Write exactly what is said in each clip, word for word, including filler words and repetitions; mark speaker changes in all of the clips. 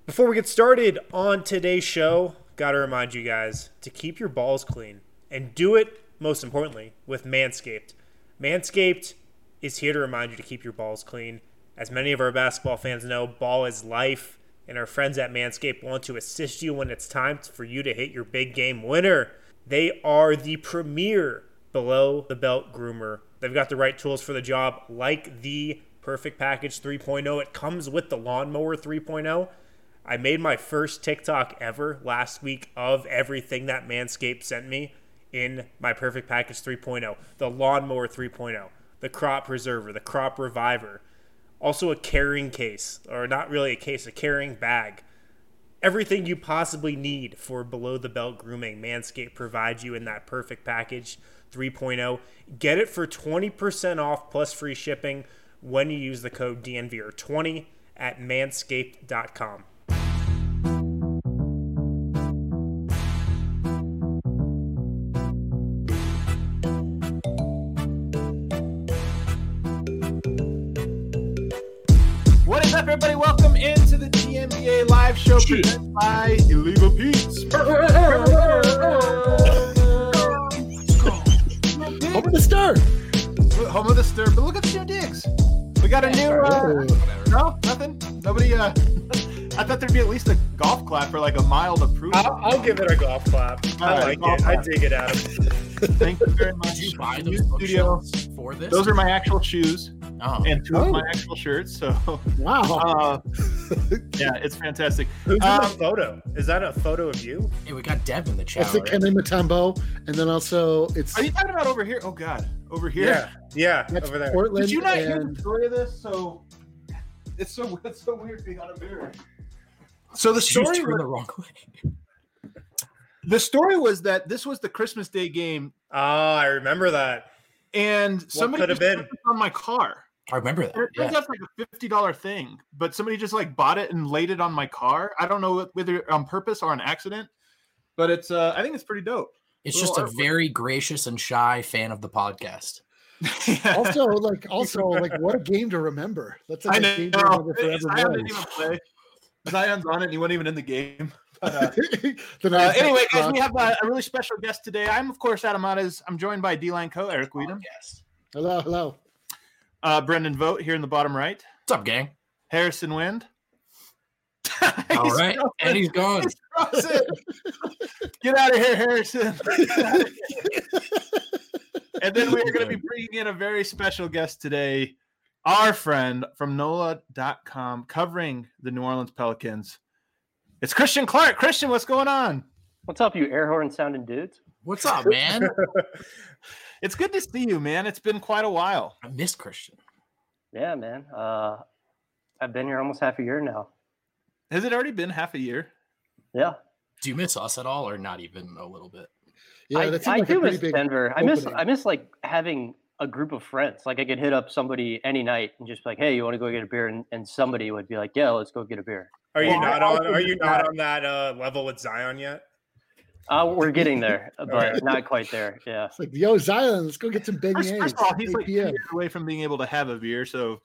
Speaker 1: Before we get started on today's show, gotta remind you guys to keep your balls clean and do it, most importantly, with Manscaped. Manscaped is here to remind you to keep your balls clean. As many of our basketball fans know, ball is life, and our friends at Manscaped want to assist you when it's time for you to hit your big game winner. They are the premier below-the-belt groomer. They've got the right tools for the job, like the Perfect Package three point oh. It comes with the Lawnmower three point oh. I made my first TikTok ever last week of everything that Manscaped sent me in my Perfect Package three point oh. The Lawnmower three point oh, the Crop Preserver, the Crop Reviver, also a carrying case, or not really a case, a carrying bag. Everything you possibly need for below-the-belt grooming, Manscaped provides you in that Perfect Package three point oh. Get it for twenty percent off plus free shipping when you use the code D N V R twenty at manscaped dot com.
Speaker 2: What is up, everybody? Welcome into the T N B A live show presented by Illegal Pete's.
Speaker 3: Home of the Stir.
Speaker 2: Home of the Stir. But look at the new digs. We got a new. Uh, no, nothing. Nobody. Uh, I thought there'd be at least a golf clap for like a mild approval.
Speaker 1: I'll, I'll give it a golf clap.
Speaker 2: All
Speaker 1: I
Speaker 2: right,
Speaker 1: like it.
Speaker 2: clap.
Speaker 1: I dig it, Adam.
Speaker 2: Thank you very much.
Speaker 4: Did you buy
Speaker 2: New
Speaker 4: those
Speaker 2: studio.
Speaker 4: bookshelves for this?
Speaker 2: Those are my actual shoes
Speaker 4: oh.
Speaker 2: and two
Speaker 3: Oh.
Speaker 2: of my actual shirts. So,
Speaker 3: Wow.
Speaker 2: uh, yeah, it's fantastic.
Speaker 1: Who's in
Speaker 2: Um,
Speaker 1: the photo? Is that a photo of you?
Speaker 4: Hey, we got Dev in the chat.
Speaker 3: It's the
Speaker 4: already.
Speaker 3: Kenny Matumbo, and then also it's
Speaker 2: Are you talking about over here? Oh God, over here.
Speaker 1: Yeah, yeah,
Speaker 3: that's
Speaker 1: over there.
Speaker 3: Portland.
Speaker 2: Did you not hear
Speaker 3: and
Speaker 2: the story of this? So it's so it's so weird being on a mirror. So the
Speaker 4: Did you
Speaker 2: story
Speaker 4: turn
Speaker 2: was,
Speaker 4: the wrong way.
Speaker 2: the story was that this was the Christmas Day game,
Speaker 1: Ah, I remember that.
Speaker 2: and somebody
Speaker 1: could have
Speaker 2: just
Speaker 1: been?
Speaker 2: put this on my car.
Speaker 4: I remember that.
Speaker 2: And it turns
Speaker 4: Yeah.
Speaker 2: out it's like a fifty dollar thing, but somebody just like bought it and laid it on my car. I don't know whether on purpose or an accident, but it's uh, I think it's pretty dope.
Speaker 4: It's just a
Speaker 2: Little artwork.
Speaker 4: very gracious and shy fan of the podcast.
Speaker 3: also like also like what a game to remember. That's like
Speaker 2: I
Speaker 3: a
Speaker 2: know.
Speaker 3: game to remember
Speaker 2: Zion
Speaker 3: forever.
Speaker 2: didn't even play. Zion's on it. And he wasn't even in the game. But, uh,
Speaker 3: The
Speaker 2: Uh,
Speaker 3: night-
Speaker 2: anyway, guys, we have uh, a really special guest today. I'm, of course, Adam Matas. I'm joined by D-Line Co. Eric Weedham,
Speaker 4: Yes.
Speaker 3: hello, hello.
Speaker 2: uh, Brendan Vogt here in the bottom right,
Speaker 4: What's up, gang?
Speaker 2: Harrison Wind.
Speaker 4: All
Speaker 2: He's
Speaker 4: right.
Speaker 2: frozen.
Speaker 4: And he's gone.
Speaker 2: He's frozen. Get out of here, Harrison. And then we are going to be bringing in a very special guest today, our friend from N O L A dot com, covering the New Orleans Pelicans. It's Christian Clark. Christian, what's going on?
Speaker 5: What's up, you air horn sounding dudes?
Speaker 4: What's up, man?
Speaker 2: It's good to see you, man. It's been quite a while.
Speaker 4: I miss Christian.
Speaker 5: Yeah, man. Uh, I've been here almost half a year now.
Speaker 2: Has it already been half a year?
Speaker 5: Yeah,
Speaker 4: Do you miss us at all, or not even a little bit?
Speaker 3: Yeah,
Speaker 5: I,
Speaker 3: that seemed
Speaker 5: I
Speaker 3: like a
Speaker 5: do
Speaker 3: pretty
Speaker 5: miss
Speaker 3: big
Speaker 5: Denver. I miss
Speaker 3: opening.
Speaker 5: I miss like having a group of friends. Like I could hit up somebody any night and just be like, "Hey, you want to go get a beer?" And, and somebody would be like, "Yeah, let's go get a beer."
Speaker 1: Are you
Speaker 2: Well,
Speaker 1: not
Speaker 2: I
Speaker 1: on?
Speaker 2: also
Speaker 1: Are you
Speaker 2: did
Speaker 1: not
Speaker 2: that.
Speaker 1: on that uh, level with Zion yet?
Speaker 5: Uh, we're getting there, but
Speaker 1: Okay.
Speaker 5: not quite there. Yeah.
Speaker 3: It's like, yo, Zion, let's go get some
Speaker 2: First,
Speaker 3: beignets.
Speaker 2: first of all, he's
Speaker 3: eight
Speaker 2: like two
Speaker 3: p.m.
Speaker 2: years away from being able to have a beer, so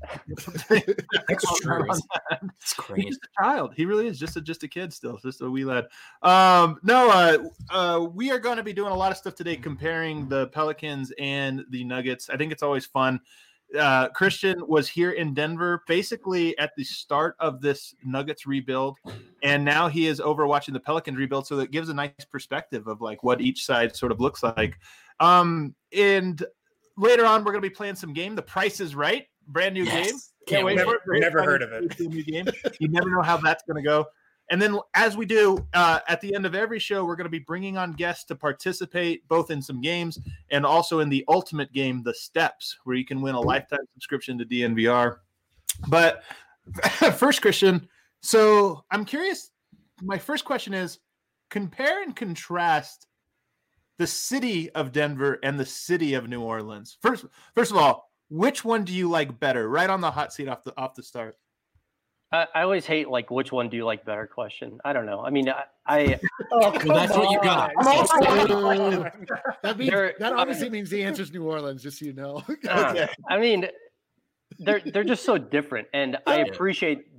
Speaker 4: That's true. It's
Speaker 2: he's
Speaker 4: crazy.
Speaker 2: just a child. He really is just a just a kid still, just a wee lad. Um, no, uh, uh, we are going to be doing a lot of stuff today, comparing the Pelicans and the Nuggets. I think it's always fun. Uh, Christian was here in Denver, basically at the start of this Nuggets rebuild, and now he is over watching the Pelicans rebuild. So that gives a nice perspective of like what each side sort of looks like. Um, and later on, we're going to be playing some game. The Price is Right, brand new
Speaker 4: Yes.
Speaker 2: game.
Speaker 4: Can't wait.
Speaker 1: Never,
Speaker 2: Very
Speaker 1: never
Speaker 2: fun
Speaker 1: heard of it.
Speaker 2: new game. You never know how that's going to go. And then, as we do uh, at the end of every show, we're going to be bringing on guests to participate both in some games and also in the ultimate game, The Steps, where you can win a lifetime subscription to D N V R. But first, Christian, so I'm curious. My first question is, compare and contrast the city of Denver and the city of New Orleans. First, first of all, which one do you like better? Right on the hot seat off the off the start.
Speaker 5: I, I always hate like which one do you like better question. I don't know. I mean, I, I
Speaker 1: Oh,
Speaker 4: Well, that's what you got.
Speaker 3: Uh, that means
Speaker 5: There-
Speaker 3: that obviously means the answer is New Orleans, just so you know.
Speaker 5: uh, I mean, they're they're just so different, and I
Speaker 4: Yeah.
Speaker 5: appreciate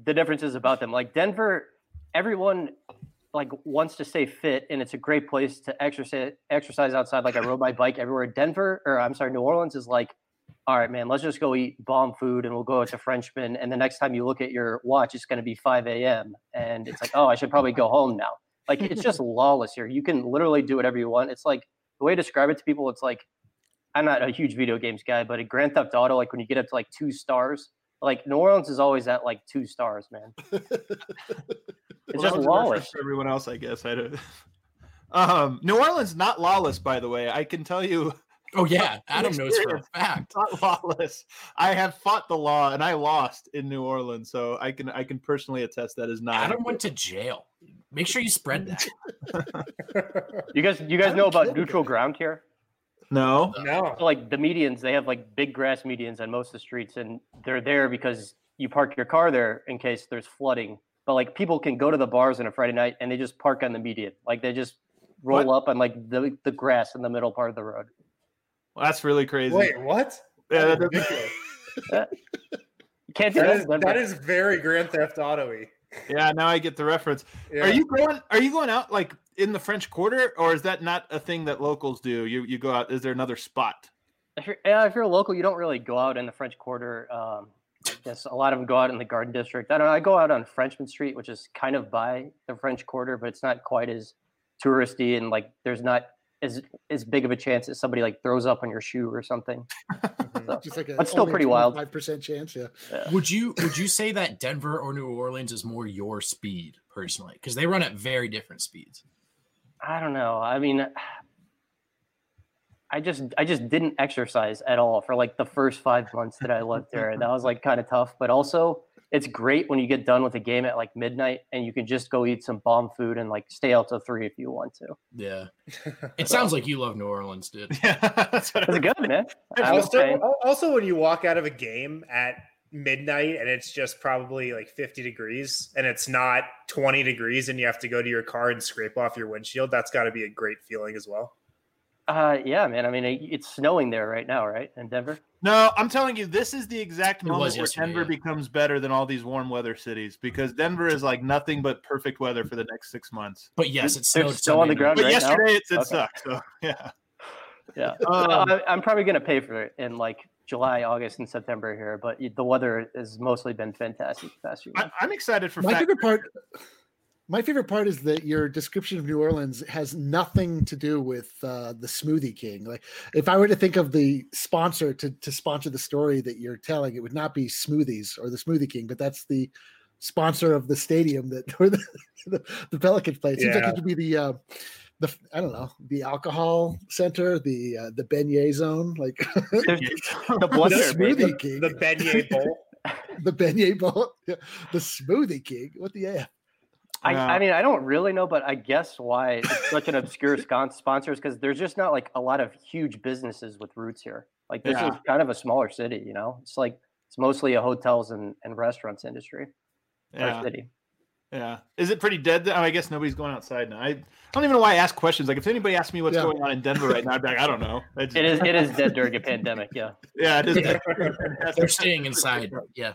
Speaker 5: the differences about them. Like Denver, everyone like wants to stay fit, and it's a great place to exercise exercise outside. Like I rode my bike everywhere. Denver, or I'm sorry, New Orleans is like, all right, man, let's just go eat bomb food and we'll go out to Frenchman. And the next time you look at your watch, it's going to be five a.m. And it's like, oh, I should probably go home now. Like, it's just lawless here. You can literally do whatever you want. It's like, the way to describe it to people, it's like, I'm not a huge video games guy, but a Grand Theft Auto, like when you get up to like two stars, like New Orleans is always at like two stars, man. It's
Speaker 2: Well,
Speaker 5: just
Speaker 2: that was a reference
Speaker 5: lawless.
Speaker 2: for everyone else, I guess. I don't. Um, New Orleans not lawless, by the way. I can tell you.
Speaker 4: Oh yeah, Adam knows for a fact.
Speaker 2: Not lawless. I have fought the law and I lost in New Orleans, so I can I can personally attest that is not.
Speaker 4: Adam went to jail. Make sure you spread that.
Speaker 5: You guys, you guys know about neutral ground here?
Speaker 2: No.
Speaker 1: No.
Speaker 5: So, like the medians, they have like big grass medians on most of the streets, and they're there because you park your car there in case there's flooding. But like people can go to the bars on a Friday night and they just park on the median, like they just roll
Speaker 2: What?
Speaker 5: up on like the the grass in the middle part of the road.
Speaker 2: Well, that's really crazy.
Speaker 1: Wait, what?
Speaker 2: Yeah,
Speaker 1: That is
Speaker 2: that-
Speaker 1: ridiculous.
Speaker 5: You can't do
Speaker 1: That
Speaker 5: that.
Speaker 1: is,
Speaker 5: in Denver.
Speaker 1: that is very Grand Theft Auto-y.
Speaker 2: yeah, now I get the reference.
Speaker 1: Yeah.
Speaker 2: Are you going? Are you going out like in the French Quarter, or is that not a thing that locals do? You you go out. Is there another spot?
Speaker 5: If you're, yeah, if you're a local, you don't really go out in the French Quarter. Um, I guess a lot of them go out in the Garden District. I don't know. I go out on Frenchman Street, which is kind of by the French Quarter, but it's not quite as touristy, and like there's not as as big of a chance that somebody like throws up on your shoe or something. So,
Speaker 3: Just like a,
Speaker 5: That's still pretty wild.
Speaker 3: Five percent chance, yeah.
Speaker 4: Would you would you say that Denver or New Orleans is more your speed personally? Because they run at very different speeds.
Speaker 5: I don't know. I mean, I just I just didn't exercise at all for like the first five months that I lived there. That was like kind of tough. But also, it's great when you get done with a game at like midnight and you can just go eat some bomb food and like stay out till three if you want to.
Speaker 4: Yeah. It sounds like you love New Orleans, dude.
Speaker 2: Yeah, that's what I-
Speaker 5: It's good, man. I'm
Speaker 1: Also,
Speaker 5: saying.
Speaker 1: also, when you walk out of a game at midnight and it's just probably like fifty degrees and it's not twenty degrees and you have to go to your car and scrape off your windshield, that's got to be a great feeling as well.
Speaker 5: Uh, yeah, man. I mean, it, it's snowing there right now, right, in Denver?
Speaker 2: No, I'm telling you, this is the exact
Speaker 4: It
Speaker 2: moment
Speaker 4: was
Speaker 2: where
Speaker 4: yesterday,
Speaker 2: Denver
Speaker 4: yeah.
Speaker 2: becomes better than all these warm weather cities because Denver is like nothing but perfect weather for the next six months.
Speaker 4: But yes, it's
Speaker 5: There's
Speaker 4: snowed
Speaker 5: snow on the
Speaker 4: Sunday
Speaker 5: ground
Speaker 4: night.
Speaker 2: But
Speaker 5: right now?
Speaker 2: yesterday it, it
Speaker 5: Okay.
Speaker 2: sucked. So yeah.
Speaker 5: Yeah.
Speaker 2: Um,
Speaker 5: I, I'm probably going to pay for it in like July, August, and September here, but the weather has mostly been fantastic the past few
Speaker 2: I,
Speaker 5: months.
Speaker 2: I'm excited for
Speaker 3: My
Speaker 2: fact-
Speaker 3: favorite part. My favorite part is that your description of New Orleans has nothing to do with uh, the Smoothie King. Like, if I were to think of the sponsor to to sponsor the story that you're telling, it would not be Smoothies or the Smoothie King, but that's the sponsor of the stadium that where the, the, the Pelicans play. It seems
Speaker 1: Yeah.
Speaker 3: like it could be the uh, the I don't know the alcohol center, the uh, the beignet zone, like
Speaker 5: There's the
Speaker 3: the
Speaker 5: blender, baby.
Speaker 3: Smoothie King,
Speaker 1: The beignet bowl.
Speaker 3: the beignet bowl, yeah, the Smoothie King. What the F?
Speaker 5: I,
Speaker 2: Yeah.
Speaker 5: I mean, I don't really know, but I guess why it's such an obscure scon- sponsor is because there's just not like a lot of huge businesses with roots here. Like this
Speaker 2: Yeah.
Speaker 5: is kind of a smaller city, you know. It's like it's mostly a hotels and, and restaurants industry.
Speaker 2: Yeah.
Speaker 5: Our city.
Speaker 2: Yeah. Is it pretty dead? th- Oh, I guess nobody's going outside now. I, I don't even know why I ask questions. Like, if anybody asks me what's
Speaker 3: Yeah.
Speaker 2: going on in Denver right now, I'd be like, I don't know. I just-
Speaker 5: It is it is dead during a pandemic. Yeah.
Speaker 2: Yeah, it is.
Speaker 4: They're staying inside. Yeah.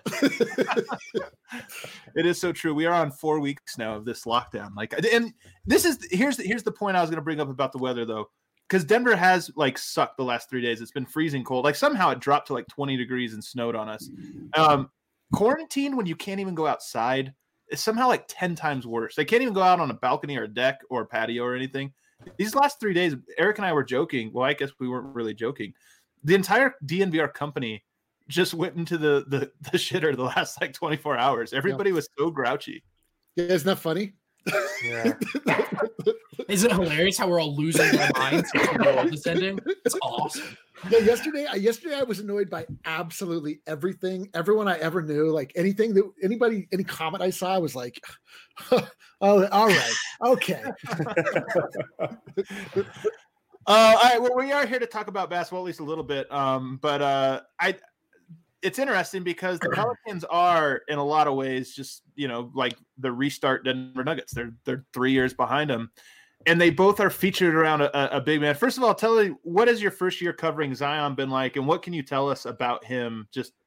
Speaker 2: It is so true. We are on four weeks now of this lockdown. Like, and this is here's the, here's the point I was going to bring up about the weather though, because Denver has like sucked the last three days. It's been freezing cold. Like somehow it dropped to like twenty degrees and snowed on us. Um, quarantine when you can't even go outside is somehow like ten times worse. They can't even go out on a balcony or a deck or a patio or anything. These last three days, Eric and I were joking. Well, I guess we weren't really joking. The entire D N V R company just went into the the, the shitter the last like twenty-four hours. Everybody was so grouchy.
Speaker 3: Yeah, isn't that funny?
Speaker 1: Yeah.
Speaker 4: Isn't it hilarious how we're all losing our minds because the world is ending? It's awesome.
Speaker 3: Yeah, yesterday, I yesterday I was annoyed by absolutely everything. Everyone I ever knew, like anything that anybody, any comment I saw, I was like, "Oh, all right, okay."
Speaker 2: Uh, all right, well, we are here to talk about basketball at least a little bit. Um, but uh, I, it's interesting because the Pelicans are in a lot of ways just you know like the restart Denver Nuggets. They're they're three years behind them, and they both are featured around a, a big man. First of all, tell me what has your first year covering Zion been like, and what can you tell us about him just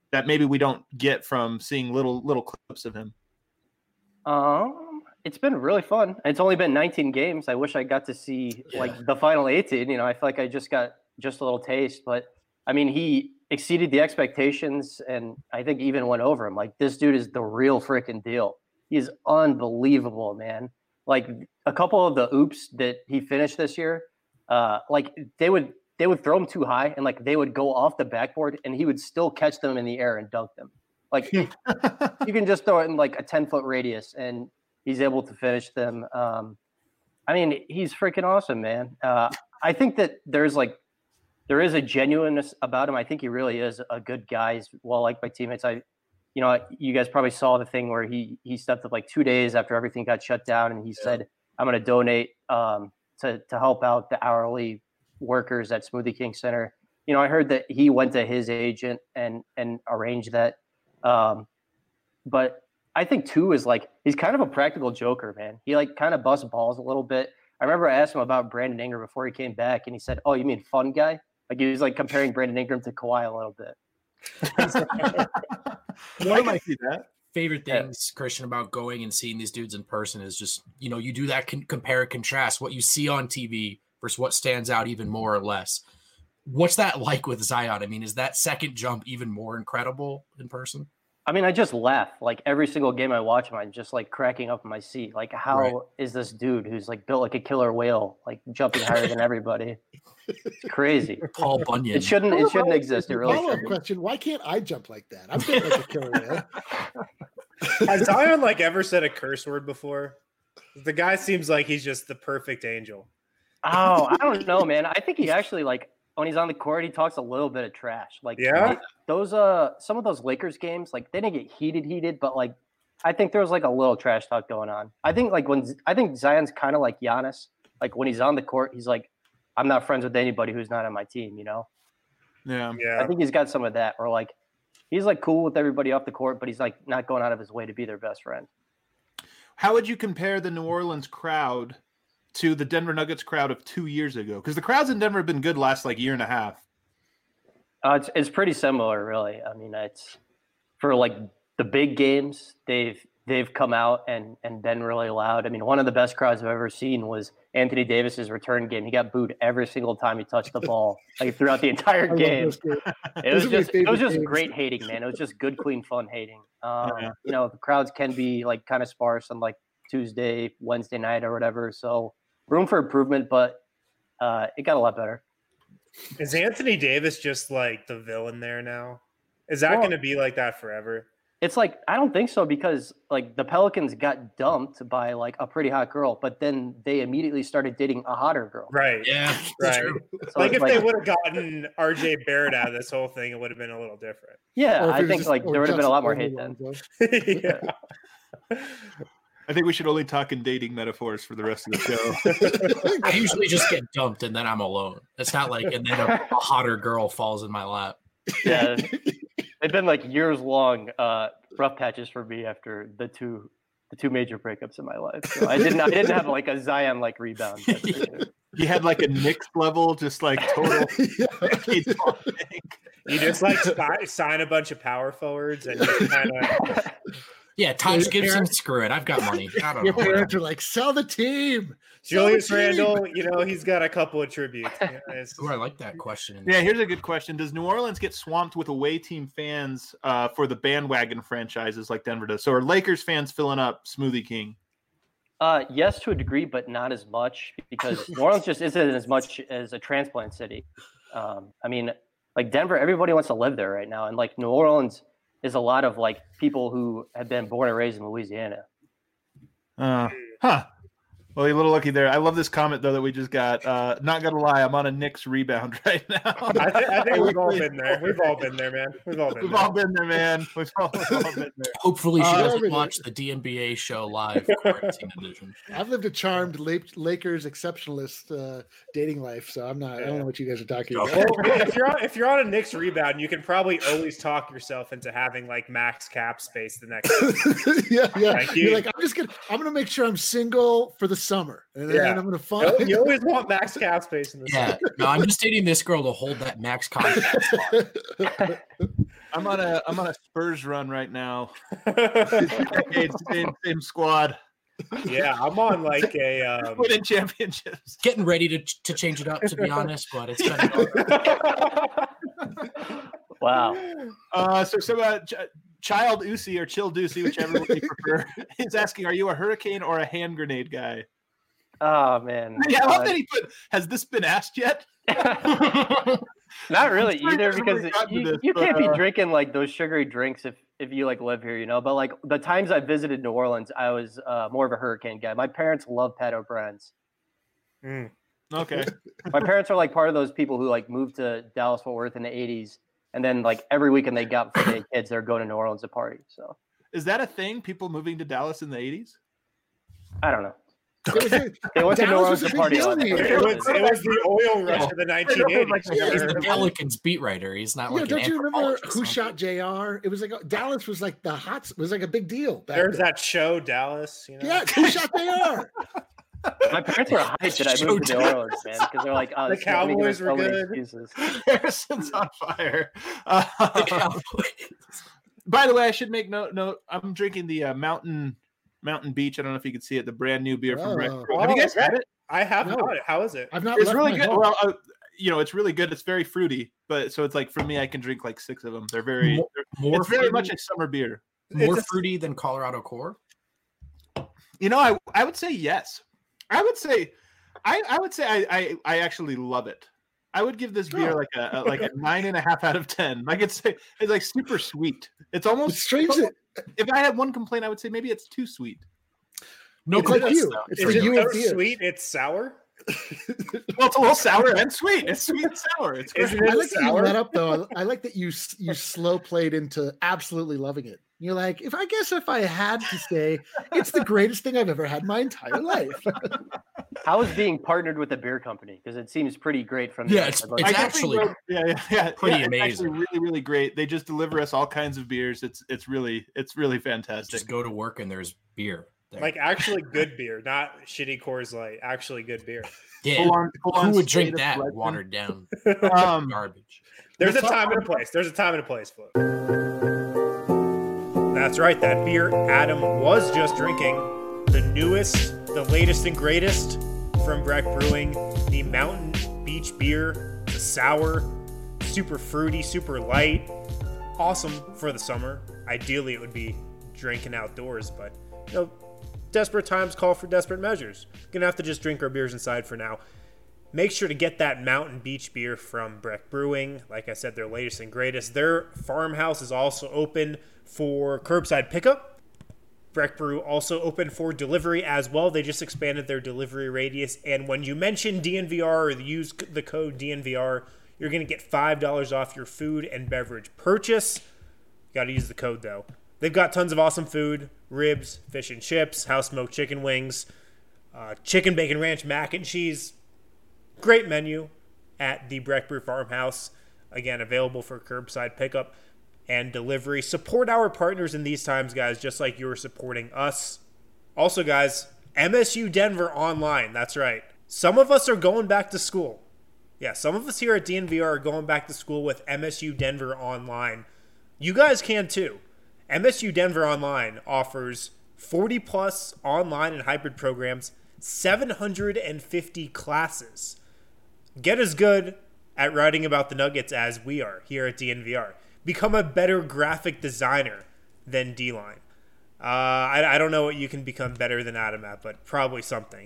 Speaker 2: that maybe we don't get from seeing little little clips of him?
Speaker 5: Um, it's been really fun. It's only been nineteen games. I wish I got to see
Speaker 4: Yeah.
Speaker 5: like the final eighteen. You know, I feel like I just got just a little taste, but I mean, he exceeded the expectations, and I think even went over him. Like, this dude is the real freaking deal. He's unbelievable, man. Like, a couple of the oops that he finished this year, uh, like they would they would throw him too high, and like they would go off the backboard, and he would still catch them in the air and dunk them. Like, you can just throw it in like a ten foot radius, and he's able to finish them. Um, I mean, he's freaking awesome, man. Uh, I think that there's like there is a genuineness about him. I think he really is a good guy. He's well liked by teammates. I, you know, you guys probably saw the thing where he he stepped up like two days after everything got shut down, and he yeah. said, "I'm going to donate um, to to help out the hourly workers at Smoothie King Center." You know, I heard that he went to his agent and and arranged that. Um, but I think too is like he's kind of a practical joker, man. He like kind of busts balls a little bit. I remember I asked him about Brandon Ingram before he came back, and he said, "Oh, you mean fun guy?" Like he was like comparing Brandon Ingram to Kawhi a little bit.
Speaker 4: One of my favorite things, Christian, about going and seeing these dudes in person is just, you know, you do that con- compare and contrast what you see on T V versus what stands out even more or less. What's that like with Zion? I mean, is that second jump even more incredible in person?
Speaker 5: I mean, I just laugh. Like every single game I watch him, I'm just like cracking up in my seat. Like, how right. is this dude who's like built like a killer whale, like jumping higher than everybody? It's crazy.
Speaker 4: Paul Bunyan.
Speaker 5: It shouldn't. It shouldn't exist. It really
Speaker 3: follow-up
Speaker 5: shouldn't.
Speaker 3: question: why can't I jump like that? I'm built like a killer whale.
Speaker 1: Has Zion like ever said a curse word before? The guy seems like he's just the perfect angel.
Speaker 5: Oh, I don't know, man. I think he actually like. When he's on the court, he talks a little bit of trash. Like
Speaker 1: yeah,
Speaker 5: those uh, some of those Lakers games, like they didn't get heated, heated, but like I think there was like a little trash talk going on. I think like when I think Zion's kind of like Giannis. Like when he's on the court, he's like, I'm not friends with anybody who's not on my team. You know?
Speaker 2: Yeah,
Speaker 1: yeah.
Speaker 5: I think he's got some of that, or like he's like cool with everybody off the court, but he's like not going out of his way to be their best friend.
Speaker 2: How would you compare the New Orleans crowd to the Denver Nuggets crowd of two years ago? Because the crowds in Denver have been good last like year and a half.
Speaker 5: Uh, it's it's pretty similar, really. I mean, it's for like the big games, they've they've come out and and been really loud. I mean, one of the best crowds I've ever seen was Anthony Davis's return game. He got booed every single time he touched the ball, like throughout the entire game. It was just it was just games. Great hating, man. It was just good, clean, fun hating. Um, yeah. You know, the crowds can be like kind of sparse on like Tuesday, Wednesday night, or whatever. So. Room for improvement, but uh, it got a lot better.
Speaker 1: Is Anthony Davis just like the villain there now? Is that well, going to be like that forever?
Speaker 5: It's like, I don't think so, because like the Pelicans got dumped by like a pretty hot girl, but then they immediately started dating a hotter girl.
Speaker 1: Right.
Speaker 4: Yeah.
Speaker 1: Right. So like if like, they would have gotten R J Barrett out of this whole thing, it would have been a little different.
Speaker 5: Yeah. I think just, like there would have been a lot more hate then.
Speaker 1: Yeah.
Speaker 2: I think we should only talk in dating metaphors for the rest of the
Speaker 4: show. I usually just get dumped and then I'm alone. It's not like and then a, a hotter girl falls in my lap.
Speaker 5: Yeah, they've been like years long uh, rough patches for me after the two the two major breakups in my life. So I didn't I didn't have like a Zion like rebound.
Speaker 2: You had like a Knicks level, just like total.
Speaker 1: You just like sign a bunch of power forwards and just kind of.
Speaker 4: Yeah, Taj Gibson, screw it. I've got money. I don't
Speaker 3: Your
Speaker 4: know.
Speaker 3: parents are like, sell the team. Sell
Speaker 1: Julius
Speaker 3: the team.
Speaker 1: Randle, you know, he's got a couple of tributes. You know,
Speaker 4: Ooh, I like that question.
Speaker 2: Yeah, here's a good question. Does New Orleans get swamped with away team fans uh, for the bandwagon franchises like Denver does? So are Lakers fans filling up Smoothie King?
Speaker 5: Uh, yes, to a degree, but not as much because New Orleans just isn't as much as a transplant city. Um, I mean, like Denver, everybody wants to live there right now. And like New Orleans – is a lot of like people who have been born and raised in Louisiana.
Speaker 2: Uh, huh. Well, you're a little lucky there. I love this comment though that we just got. Uh, not gonna lie, I'm on a Knicks rebound right now.
Speaker 1: I, th- I think we've all been there. We've all been there, man. We've all been.
Speaker 2: We've
Speaker 1: there.
Speaker 2: all been there, man. We've all, we've all been there.
Speaker 4: Hopefully, she
Speaker 3: Uh,
Speaker 4: doesn't watch the D N B A show live. Quarantine edition.
Speaker 3: I've lived a charmed Lakers exceptionalist uh, dating life, so I'm not. I don't know what you guys are talking about.
Speaker 1: Well, if you're on, if you're on a Knicks rebound, you can probably always talk yourself into having like max cap space the next.
Speaker 3: yeah, yeah.
Speaker 1: Like you,
Speaker 3: You're like, I'm just gonna. I'm gonna make sure I'm single for the summer, and then
Speaker 1: Yeah.
Speaker 3: I'm gonna find.
Speaker 1: You always want max cap space in the
Speaker 4: Yeah,
Speaker 1: summer.
Speaker 4: no, I'm just dating this girl to hold that max contract.
Speaker 2: I'm on a I'm on a Spurs run right now. same, same squad.
Speaker 1: Yeah, I'm on like a um...
Speaker 2: winning championships.
Speaker 4: Getting ready to to change it up, to be honest, but it's been
Speaker 5: wow.
Speaker 2: Uh, so so uh, Ch- Child Usi or Chill Deucey, whichever one you prefer, is asking, are you a hurricane or a hand grenade guy?
Speaker 5: Oh man.
Speaker 2: Yeah, I love
Speaker 5: uh,
Speaker 2: that he put. Has this been asked yet?
Speaker 5: Not really
Speaker 2: sure
Speaker 5: either,
Speaker 2: he
Speaker 5: because
Speaker 2: hasn't gotten
Speaker 5: you,
Speaker 2: to this,
Speaker 5: you
Speaker 2: but,
Speaker 5: can't be
Speaker 2: uh,
Speaker 5: drinking like those sugary drinks if if you like live here, you know. But like the times I visited New Orleans, I was uh, more of a hurricane guy. My parents love Pat O'Brien's.
Speaker 1: Mm.
Speaker 2: Okay.
Speaker 5: My parents are like part of those people who like moved to Dallas Fort Worth in the eighties, and then like every weekend they got for their kids, they're going to New Orleans to party. So
Speaker 2: Is that a thing? People moving to Dallas in the eighties?
Speaker 5: I don't know.
Speaker 3: It was a-
Speaker 5: They went to New
Speaker 3: Dallas
Speaker 5: Orleans
Speaker 3: was a
Speaker 5: to
Speaker 3: big
Speaker 5: party.
Speaker 3: deal
Speaker 5: on
Speaker 3: here.
Speaker 1: It was, it was the oil rush of the nineteen eighties.
Speaker 4: He's the Pelicans beat writer. He's not
Speaker 3: Yeah,
Speaker 4: like
Speaker 3: don't
Speaker 4: an
Speaker 3: you remember
Speaker 4: anthropologist,
Speaker 3: Who
Speaker 4: huh?
Speaker 3: Shot J R? It was like Dallas was like the hot was like a big deal. Back
Speaker 1: There's
Speaker 3: then.
Speaker 1: that show, Dallas. You know?
Speaker 3: Yeah, Who Shot J R?
Speaker 5: My parents were hyped that I moved to New Orleans, man, because they're like, oh,
Speaker 1: The
Speaker 5: this is gonna give us
Speaker 1: Cowboys were
Speaker 5: so many
Speaker 1: good.
Speaker 5: excuses.
Speaker 2: Harrison's on fire. Uh, by the way, I should make note. Note. I'm drinking the uh, Mountain Mountain Beach. I don't know if you can see it. The brand new beer from Breck
Speaker 3: Oh.
Speaker 2: Brew. Have you guys
Speaker 1: Oh,
Speaker 2: had it?
Speaker 1: I have
Speaker 3: No.
Speaker 1: not. How is it?
Speaker 3: I've not.
Speaker 2: It's
Speaker 3: left
Speaker 2: really
Speaker 3: my
Speaker 2: good.
Speaker 3: home.
Speaker 2: Well, uh, you know, it's really good. It's very fruity, but so it's like for me, I can drink like six of them. They're very.
Speaker 4: More-
Speaker 2: they're-
Speaker 4: More
Speaker 2: it's very
Speaker 4: fruity,
Speaker 2: much a summer beer.
Speaker 4: more
Speaker 1: it's a-
Speaker 4: fruity than Colorado Core.
Speaker 2: You know, I I would say yes. I would say, I I would say I I, I actually love it. I would give this beer
Speaker 3: Oh.
Speaker 2: like a, a like a nine and a half out of ten. Like it's it's like super sweet. It's
Speaker 3: It's
Speaker 2: almost
Speaker 3: strange that
Speaker 2: if I had one complaint, I would say maybe it's too sweet.
Speaker 4: No,
Speaker 3: it's like
Speaker 4: complaints,
Speaker 3: you.
Speaker 4: though.
Speaker 3: It's
Speaker 1: Is
Speaker 3: like
Speaker 1: it
Speaker 3: you
Speaker 1: so
Speaker 3: and beer.
Speaker 1: sweet? It's sour.
Speaker 2: Well, it's a little sour and sweet. It's sweet and sour. It's great.
Speaker 1: Isn't
Speaker 3: I
Speaker 1: it
Speaker 3: like that you
Speaker 1: sour?
Speaker 3: let up though. I like that you s- you slow played into absolutely loving it. You're like, if I guess if I had to say, it's the greatest thing I've ever had in my entire life.
Speaker 5: How is being partnered with a beer company? Because it seems pretty great from the
Speaker 4: Yeah, it's-
Speaker 5: outside looking
Speaker 4: it's
Speaker 2: I
Speaker 5: in.
Speaker 2: definitely
Speaker 4: actually
Speaker 2: wrote- yeah, yeah, yeah,
Speaker 4: pretty
Speaker 2: yeah, it's
Speaker 4: amazing.
Speaker 2: actually really, really great. They just deliver us all kinds of beers. It's it's really it's really fantastic.
Speaker 4: Just go to work and there's beer. There.
Speaker 1: Like actually good beer, not shitty Coors Light. Actually good beer.
Speaker 4: yeah,
Speaker 2: Full on, full on
Speaker 4: who would
Speaker 2: state
Speaker 4: drink
Speaker 2: of
Speaker 4: that
Speaker 2: selection.
Speaker 4: watered down
Speaker 2: Um,
Speaker 4: garbage?
Speaker 1: There's a
Speaker 2: Let's talk
Speaker 1: time and a place. There's a time and a place for it. That's right. That beer Adam was just drinking, the newest, the latest and greatest from Breck Brewing, the Mountain Beach beer, the sour, super fruity, super light, awesome for the summer. Ideally, it would be drinking outdoors, but you know, desperate times call for desperate measures. Gonna have to just drink our beers inside for now. Make sure to get that Mountain Beach beer from Breck Brewing. Like I said, their latest and greatest. Their farmhouse is also open for curbside pickup. Breck Brew also open for delivery as well. They just expanded their delivery radius. And when you mention D N V R or use the code D N V R, you're going to get five dollars off your food and beverage purchase. You got to use the code, though. They've got tons of awesome food, ribs, fish and chips, house-smoked chicken wings, uh, chicken bacon ranch mac and cheese. Great menu at the Breck Brew Farmhouse. Again, available for curbside pickup and delivery. Support our partners in these times, guys, just like you're supporting us. Also, guys, M S U Denver Online. That's right. Some of us are going back to school. Yeah, some of us here at D N V R are going back to school with M S U Denver Online. You guys can too. M S U Denver Online offers forty plus online and hybrid programs, seven hundred fifty classes. Get as good at writing about the Nuggets as we are here at D N V R. Become a better graphic designer than D-Line. Uh, I, I don't know what you can become better than Adam at, but probably something.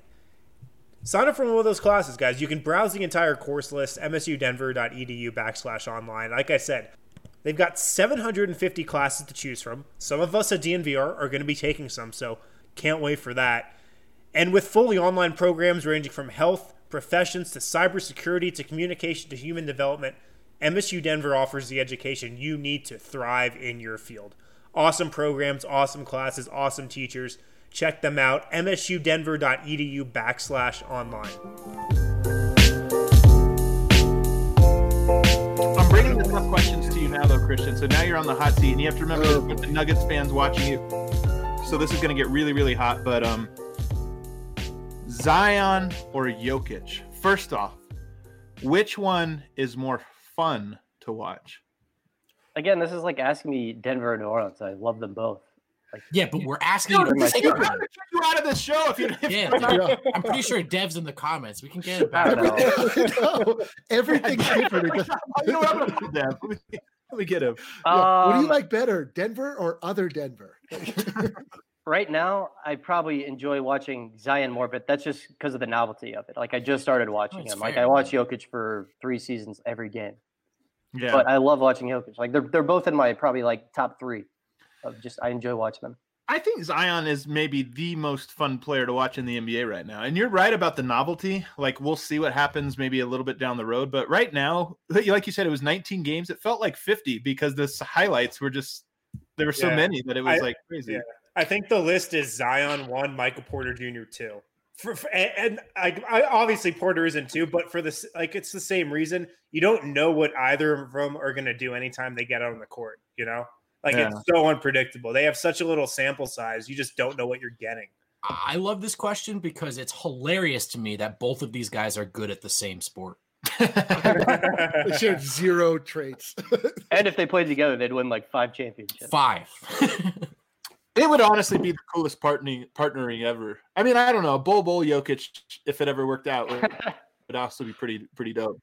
Speaker 1: Sign up for one of those classes, guys. You can browse the entire course list, msudenver.edu backslash online. Like I said, they've got seven hundred fifty classes to choose from. Some of us at D N V R are going to be taking some, so can't wait for that. And with fully online programs ranging from health, professions to cybersecurity to communication to human development, M S U Denver offers the education you need to thrive in your field. Awesome programs, awesome classes, awesome teachers. Check them out, msudenver.edu backslash online.
Speaker 2: I'm bringing the tough questions to you now, though, Christian. So now you're on the hot seat, and you have to remember there's a bunch of Nuggets fans watching you. So this is going to get really, really hot. But um, Zion or Jokic? First off, which one is more fun to watch?
Speaker 5: again, this is like asking me Denver or New Orleans. I love them both. Like,
Speaker 4: yeah, but we're asking you to
Speaker 2: Dude,
Speaker 4: pick
Speaker 2: you
Speaker 4: one.
Speaker 2: gotta kick you out of this show if you. If
Speaker 4: Yeah,
Speaker 3: Yeah.
Speaker 4: I'm pretty sure Dev's in the comments. We can get it
Speaker 5: I
Speaker 4: back.
Speaker 5: don't know.
Speaker 3: No, everything's different. It doesn't-
Speaker 2: you know what? I'm gonna put Dev. Let me, let me get him.
Speaker 3: Yeah. What do you
Speaker 5: Um,
Speaker 3: like better, Denver or other Denver?
Speaker 5: Right now, I probably enjoy watching Zion more, but that's just because of the novelty of it. Like I just started watching
Speaker 4: That's
Speaker 5: him. Like
Speaker 4: fair,
Speaker 5: I watch
Speaker 4: man.
Speaker 5: Jokic for three seasons every game.
Speaker 2: Yeah.
Speaker 5: But I love watching Jokic. Like they're they're both in my probably like top three of just I enjoy watching them.
Speaker 2: I think Zion is maybe the most fun player to watch in the N B A right now. And you're right about the novelty. Like we'll see what happens maybe a little bit down the road. But right now, like you said, it was nineteen games. It felt like fifty because the highlights were just there were so
Speaker 1: Yeah.
Speaker 2: many that it was
Speaker 1: I-
Speaker 2: like crazy.
Speaker 1: yeah. I think the list is Zion one, Michael Porter Junior two. For, for, and and I, I obviously Porter isn't two, but for this, like it's the same reason. You don't know what either of them are going to do anytime they get out on the court. You know, like
Speaker 2: Yeah.
Speaker 1: it's so unpredictable. They have such a little sample size. You just don't know what you're getting.
Speaker 4: I love this question because it's hilarious to me that both of these guys are good at the same sport.
Speaker 3: They shared zero traits.
Speaker 5: And if they played together, they'd win like five championships.
Speaker 4: Five.
Speaker 2: It would honestly be the coolest partnering partnering ever. I mean, I don't know. Bol Bol Jokic, if it ever worked out, would, would also be pretty pretty dope.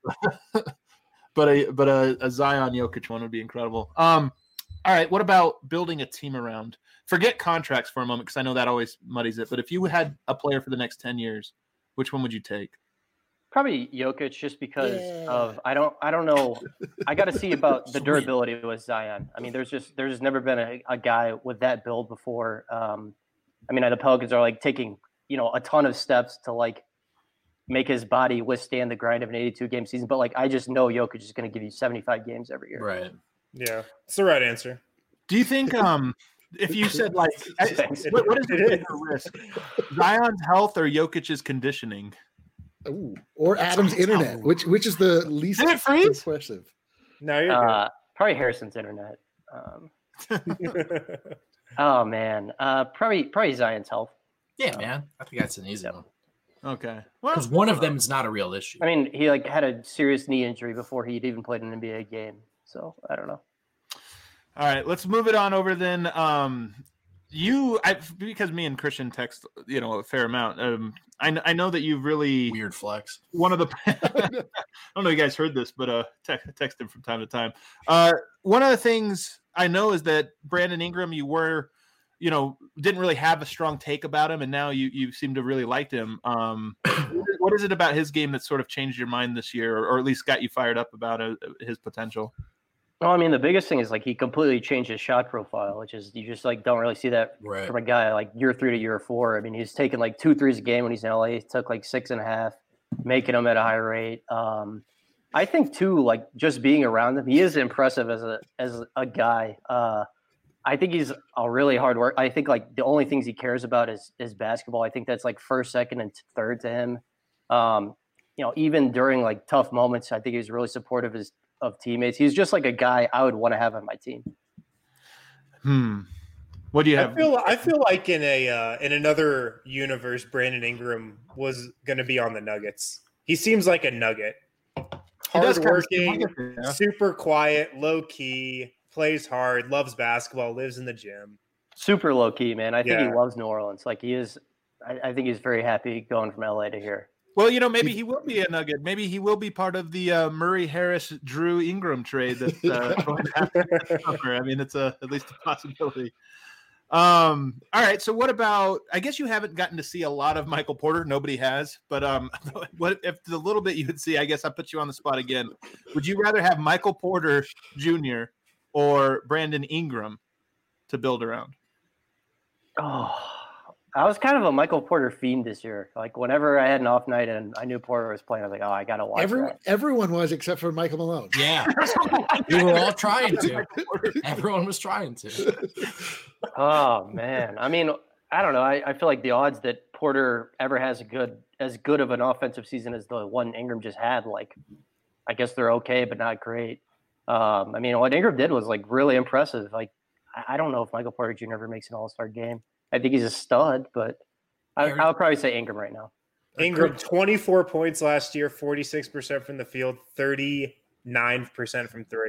Speaker 2: but a but a, a Zion Jokic one would be incredible. Um, all right. What about building a team around? Forget contracts for a moment because I know that always muddies it. But if you had a player for the next ten years, which one would you take?
Speaker 5: Probably Jokic, just because
Speaker 3: Yeah.
Speaker 5: of I don't I don't know. I got to see about the
Speaker 4: Sweet.
Speaker 5: durability with Zion. I mean, there's just there's just never been a, a guy with that build before. Um, I mean, the Pelicans are like taking you know a ton of steps to like make his body withstand the grind of an eighty-two game season. But like, I just know Jokic is going to give you seventy-five games every year.
Speaker 4: Right.
Speaker 1: Yeah, it's the right answer.
Speaker 2: Do you think um if you said like
Speaker 5: Thanks.
Speaker 2: what, what is the
Speaker 1: It
Speaker 2: bigger risk? Zion's health or Jokic's conditioning?
Speaker 3: Ooh, or Adam's internet, which which is the least
Speaker 2: Did it freeze?
Speaker 3: impressive.
Speaker 1: No, you're
Speaker 5: Uh, probably Harrison's internet. Um,
Speaker 1: good.
Speaker 5: oh man, uh, probably probably Zion's health.
Speaker 4: Yeah, man. I think that's an easy one.
Speaker 2: Okay. Well,
Speaker 4: Because one of them is not a real issue.
Speaker 5: I mean, he like had a serious knee injury before he'd even played an N B A game. So I don't know.
Speaker 2: all right, let's move it on over then. Um, you, I, because me and Christian text, you know, a fair amount. Um, I, kn- I know that you've really
Speaker 4: Weird flex.
Speaker 2: one of the. I don't know if you guys heard this, but uh, te- text him from time to time. Uh, one of the things I know is that Brandon Ingram, you were, you know, didn't really have a strong take about him, and now you you seem to really liked him. Um, what is it about his game that sort of changed your mind this year, or, or at least got you fired up about uh, his potential?
Speaker 5: Well, I mean, the biggest thing is like he completely changed his shot profile, which is you just like don't really see that
Speaker 4: Right.
Speaker 5: from a guy like year three to year four. I mean, he's taking like two threes a game when he's in L A. He took like six and a half, making them at a high rate. Um, I think too, like just being around him, he is impressive as a as a guy. Uh, I think he's a really hard work. I think like the only things he cares about is is basketball. I think that's like first, second, and third to him. Um, you know, even during like tough moments, I think he's really supportive of his of teammates. He's just like a guy I would want to have on my team.
Speaker 2: Hmm. What do you
Speaker 1: I
Speaker 2: have?
Speaker 1: feel I feel like in a uh, in another universe, Brandon Ingram was going to be on the Nuggets. He seems like a Nugget,
Speaker 2: He does kind of seem
Speaker 1: hardworking,
Speaker 2: like it, yeah.
Speaker 1: super quiet, low key, plays hard, loves basketball, lives in the gym.
Speaker 5: Super low key, man. I think
Speaker 1: Yeah.
Speaker 5: he loves New Orleans. Like he is. I, I think he's very happy going from L A to here.
Speaker 2: Well, you know, maybe he will be a Nugget. Maybe he will be part of the uh, Murray Harris Drew Ingram trade that's uh, going to happen this summer. I mean, it's a at least a possibility. Um, all right. So, what about? I guess you haven't gotten to see a lot of Michael Porter. Nobody has. But um, what if the little bit you would see? I guess I put you on the spot again. Would you rather have Michael Porter Junior or Brandon Ingram to build around?
Speaker 5: Oh, I was kind of a Michael Porter fiend this year. Like whenever I had an off night and I knew Porter was playing, I was like, oh, I gotta watch
Speaker 3: Every,
Speaker 5: that.
Speaker 3: everyone was except for Michael Malone.
Speaker 4: Yeah. We were all trying to. Everyone was trying to.
Speaker 5: Oh man, I mean, I don't know. I, I feel like the odds that Porter ever has a good as good of an offensive season as the one Ingram just had, like, I guess they're okay, but not great. Um, I mean, what Ingram did was like really impressive. Like, I, I don't know if Michael Porter Junior ever makes an All Star game. I think he's a stud, but I, I would probably say Ingram right now.
Speaker 1: Ingram, twenty-four points last year, forty-six percent from the field, thirty-nine percent from three.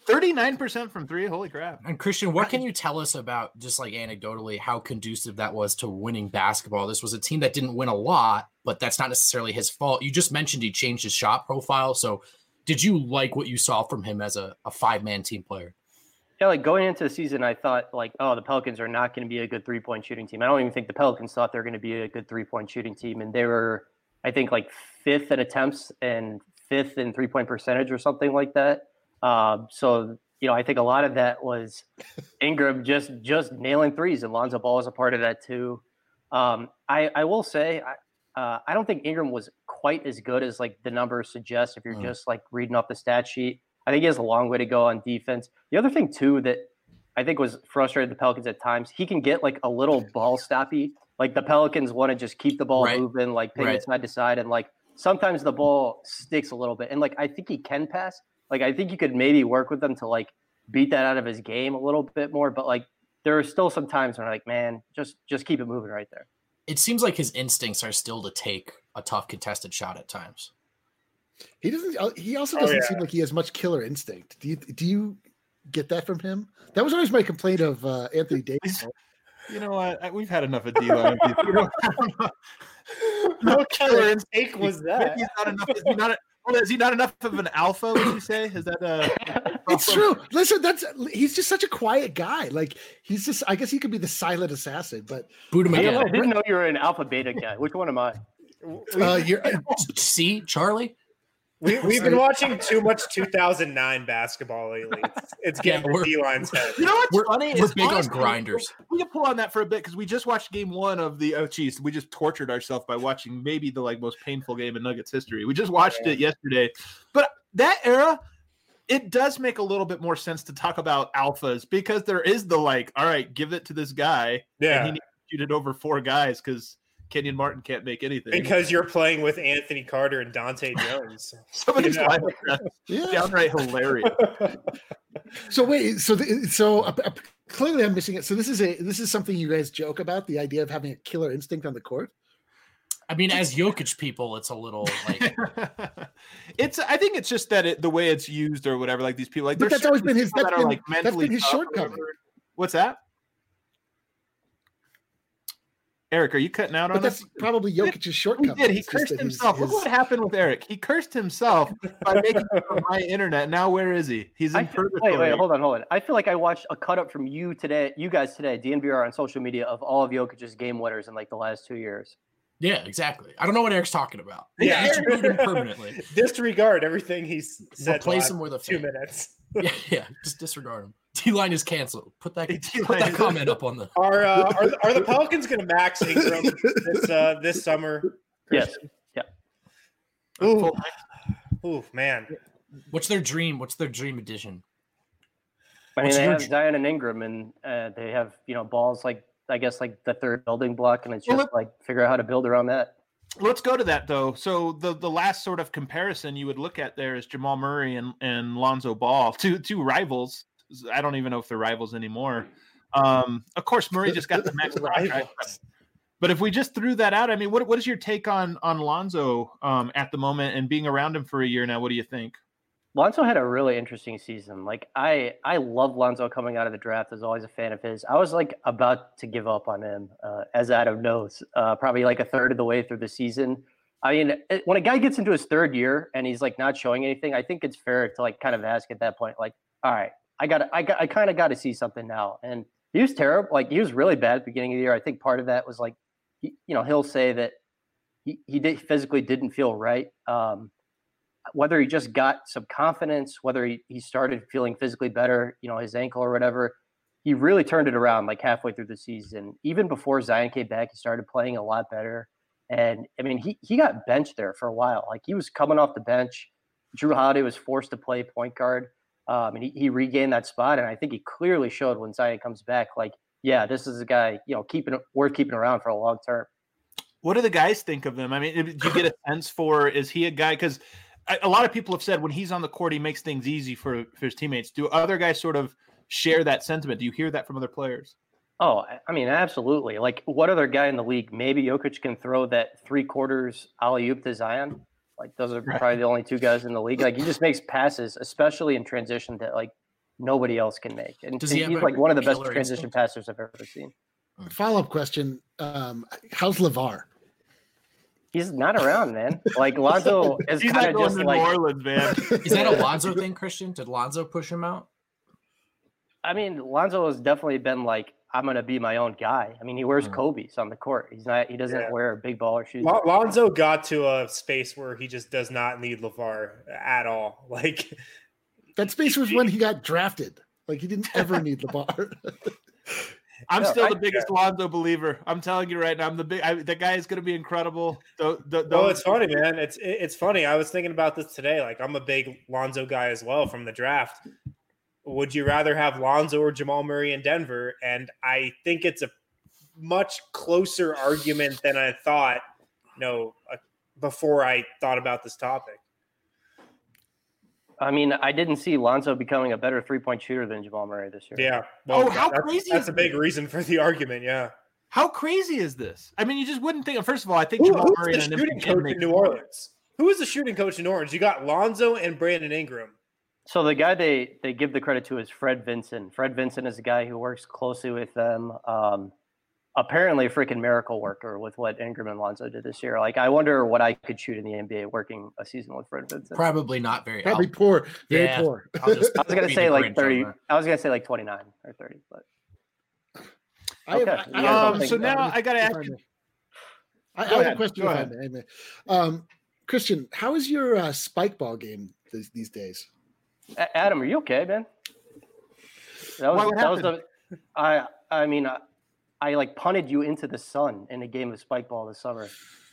Speaker 2: thirty-nine percent from three. Holy crap.
Speaker 4: And Christian, what can you tell us about, just like anecdotally, how conducive that was to winning basketball? This was a team that didn't win a lot, but that's not necessarily his fault. You just mentioned he changed his shot profile. So did you like what you saw from him as a, a five-man team player?
Speaker 5: Yeah, like going into the season, I thought like, oh, the Pelicans are not going to be a good three-point shooting team. I don't even think the Pelicans thought they were going to be a good three-point shooting team. And they were, I think, like fifth in attempts and fifth in three-point percentage or something like that. Um, so, you know, I think a lot of that was Ingram just just nailing threes, and Lonzo Ball was a part of that too. Um, I, I will say, I, uh, I don't think Ingram was quite as good as like the numbers suggest if you're mm. just like reading off the stat sheet. I think he has a long way to go on defense. The other thing too that I think was frustrated the Pelicans at times, he can get like a little ball stoppy. Like the Pelicans want to just keep the ball right. moving, like ping right. it side to side, and like sometimes the ball sticks a little bit. And like I think he can pass. Like I think you could maybe work with him to like beat that out of his game a little bit more. But like there are still some times when I'm like, man, just just keep it moving right there.
Speaker 4: It seems like his instincts are still to take a tough contested shot at times.
Speaker 3: He doesn't. He also doesn't
Speaker 1: oh, yeah.
Speaker 3: seem like he has much killer instinct. Do you? Do you get that from him? That was always my complaint of uh, Anthony Davis.
Speaker 2: You know what? We've had enough of D-line. You know,
Speaker 1: no killer instinct was that.
Speaker 2: He's not enough. Is he not? A, well, is he not enough of an alpha? Would you say? Is that a?
Speaker 3: It's true. Listen, that's he's just such a quiet guy. Like he's just. I guess he could be the silent assassin, but
Speaker 5: boot him again. I didn't know you were an alpha beta guy. Which one am I?
Speaker 3: Uh, you're,
Speaker 4: see, Charlie.
Speaker 1: We, we've been watching too much two thousand nine basketball lately. It's, it's getting yeah, D-line's head.
Speaker 2: You know what's
Speaker 4: we're,
Speaker 2: funny?
Speaker 4: We're
Speaker 2: is
Speaker 4: big
Speaker 2: honestly,
Speaker 4: on grinders.
Speaker 2: We can pull on that for a bit because we just watched game one of the oh geez, we just tortured ourselves by watching maybe the like most painful game in Nuggets history. We just watched yeah. it yesterday. But that era, it does make a little bit more sense to talk about alphas because there is the like, all right, give it to this guy.
Speaker 1: Yeah.
Speaker 2: And he needs to shoot it over four guys because Kenyon Martin can't make anything
Speaker 1: because you're playing with Anthony Carter and Dante Jones.
Speaker 2: Some of these lineups yeah. downright hilarious.
Speaker 3: So wait, so the, so uh, uh, clearly I'm missing it. So this is a this is something you guys joke about, the idea of having a killer instinct on the court.
Speaker 4: I mean, as Jokic people, it's a little like
Speaker 2: it's. I think it's just that it, the way it's used or whatever. Like these people, like
Speaker 3: but that's always been his. That's
Speaker 2: that
Speaker 3: been,
Speaker 2: like
Speaker 3: that's been his shortcoming.
Speaker 2: What's that? Eric, are you cutting out
Speaker 3: but
Speaker 2: on
Speaker 3: that's
Speaker 2: us?
Speaker 3: Probably Jokic's shortcoming.
Speaker 2: He did. He it's cursed himself. His, Look what happened with Eric. He cursed himself by making it on my internet. Now where is he? He's in
Speaker 5: feel, Wait, wait, hold on, hold on. I feel like I watched a cut up from you today, you guys today, D N V R on social media of all of Jokic's game winners in like the last two years.
Speaker 4: Yeah, exactly. I don't know what Eric's talking about.
Speaker 1: Yeah,
Speaker 4: he's removed him permanently.
Speaker 1: Disregard everything he's said.
Speaker 4: Replace him with a
Speaker 1: two
Speaker 4: fan.
Speaker 1: minutes.
Speaker 4: yeah, yeah, just disregard him. D-line is canceled. Put that, put that comment up on the.
Speaker 1: Are uh, are, are the Pelicans going to max Ingram this uh, this summer?
Speaker 5: Christian? Yes.
Speaker 1: Yeah. Ooh. Ooh, man.
Speaker 4: What's their dream? What's their dream edition?
Speaker 5: I mean,
Speaker 4: What's
Speaker 5: they have
Speaker 4: dream?
Speaker 5: Zion and Ingram, and uh, they have you know balls like I guess like the third building block, and it's just well, like figure out how to build around that.
Speaker 2: Let's go to that though. So the, the last sort of comparison you would look at there is Jamal Murray and, and Lonzo Ball, two two rivals. I don't even know if they're rivals anymore. Um, of course, Murray just got the max contract. But if we just threw that out, I mean, what what is your take on on Lonzo um, at the moment and being around him for a year now? What do you think?
Speaker 5: Lonzo had a really interesting season. Like I, I love Lonzo coming out of the draft. I was always a fan of his. I was like about to give up on him, uh, as Adam knows, uh, probably like a third of the way through the season. I mean, it, when a guy gets into his third year and he's like not showing anything, I think it's fair to like kind of ask at that point, like, all right, I got, I got, I kind of got to see something now. And he was terrible. Like he was really bad at the beginning of the year. I think part of that was like, he, you know, he'll say that he, he did physically didn't feel right. Um, whether he just got some confidence, whether he, he started feeling physically better, you know, his ankle or whatever, he really turned it around like halfway through the season. Even before Zion came back, he started playing a lot better. And I mean, he, he got benched there for a while. Like he was coming off the bench. Drew Holiday was forced to play point guard. Um, and he, he regained that spot. And I think he clearly showed when Zion comes back, like, yeah, this is a guy, you know, keeping worth keeping around for a long term.
Speaker 2: What do the guys think of him? I mean, do you get a sense for, is he a guy? Because a lot of people have said when he's on the court, he makes things easy for, for his teammates. Do other guys sort of share that sentiment? Do you hear that from other players?
Speaker 5: Oh, I mean, absolutely. Like, what other guy in the league? Maybe Jokic can throw that three quarters alley-oop to Zion. Like, those are
Speaker 2: right.
Speaker 5: probably the only two guys in the league. Like, he just makes passes, especially in transition, that like nobody else can make. And
Speaker 4: Does he
Speaker 5: he's
Speaker 4: have
Speaker 5: like
Speaker 4: a
Speaker 5: one of the best
Speaker 4: killer
Speaker 5: transition
Speaker 4: instinct?
Speaker 5: passers I've ever seen.
Speaker 3: Follow up question: um, How's LeVar?
Speaker 5: He's not around, man. Like Lonzo is
Speaker 2: He's
Speaker 5: kind
Speaker 2: not
Speaker 5: of
Speaker 2: going
Speaker 5: just
Speaker 2: to
Speaker 5: like.
Speaker 2: New Orleans, man.
Speaker 4: Is that a Lonzo thing, Christian? Did Lonzo push him out?
Speaker 5: I mean, Lonzo has definitely been like, I'm gonna be my own guy. I mean, he wears
Speaker 4: Mm.
Speaker 5: Kobe's on the court. He's not. He doesn't
Speaker 1: Yeah.
Speaker 5: wear big baller shoes.
Speaker 1: Lon- Lonzo got to a space where he just does not need LeVar at all. Like,
Speaker 3: That space was when he got drafted. Like he didn't ever need LeVar.
Speaker 2: I'm
Speaker 5: No,
Speaker 2: still
Speaker 5: I-
Speaker 2: the biggest Lonzo believer. I'm telling you right now, I'm the big. I, the guy is going to be incredible. The, the,
Speaker 1: well,
Speaker 2: those-
Speaker 1: it's funny, man. It's it- it's funny. I was thinking about this today. Like, I'm a big Lonzo guy as well from the draft. Would you rather have Lonzo or Jamal Murray in Denver? And I think it's a much closer argument than I thought. You know, uh, before I thought about this topic.
Speaker 5: I mean, I didn't see Lonzo becoming a better three point shooter than Jamal Murray this year.
Speaker 1: Yeah. Well,
Speaker 2: Oh, how
Speaker 1: that's,
Speaker 2: crazy
Speaker 1: That's
Speaker 2: is
Speaker 1: a big reason for the argument. Yeah.
Speaker 2: How crazy is this? I mean, you just wouldn't think. First of all, I think
Speaker 1: Who,
Speaker 2: Jamal
Speaker 1: who's
Speaker 2: Murray
Speaker 1: the
Speaker 2: and an
Speaker 1: shooting
Speaker 2: empty
Speaker 1: coach
Speaker 2: gym
Speaker 1: in
Speaker 2: makes
Speaker 1: New
Speaker 2: more.
Speaker 1: Orleans? Who is the shooting coach in New Orleans? You got Lonzo and Brandon Ingram.
Speaker 5: So the guy they they give the credit to is Fred Vincent. Fred Vincent is a guy who works closely with them. Um, apparently, a freaking miracle worker with what Ingram and Lonzo did this year. Like, I wonder what I could shoot in the N B A working a season with Fred Vincent.
Speaker 4: Probably not very.
Speaker 3: Probably
Speaker 4: I'll-
Speaker 3: poor, very
Speaker 4: Yeah.
Speaker 3: poor.
Speaker 4: I'll just
Speaker 5: I was gonna
Speaker 4: be
Speaker 5: say
Speaker 4: the
Speaker 5: like
Speaker 4: Grinch
Speaker 5: thirty.
Speaker 4: on that.
Speaker 5: I was gonna say like twenty nine or thirty, but
Speaker 3: I have,
Speaker 5: Okay.
Speaker 3: I,
Speaker 5: You
Speaker 3: I
Speaker 5: guys
Speaker 3: have
Speaker 5: don't
Speaker 3: a-
Speaker 5: think
Speaker 2: so
Speaker 5: so?
Speaker 2: now I got to
Speaker 3: if
Speaker 2: ask
Speaker 3: I
Speaker 2: you.
Speaker 3: may. I, I
Speaker 2: Go
Speaker 3: have
Speaker 2: ahead,
Speaker 3: a question.
Speaker 2: go
Speaker 3: if I
Speaker 2: ahead.
Speaker 3: may, I may. Um, Christian, how is your uh, spike ball game these, these days?
Speaker 5: A- Adam, are you okay, man? That was
Speaker 2: What
Speaker 5: that was
Speaker 2: happened?
Speaker 5: the. I I mean, I, I like punted you into the sun in a game of spike ball this summer.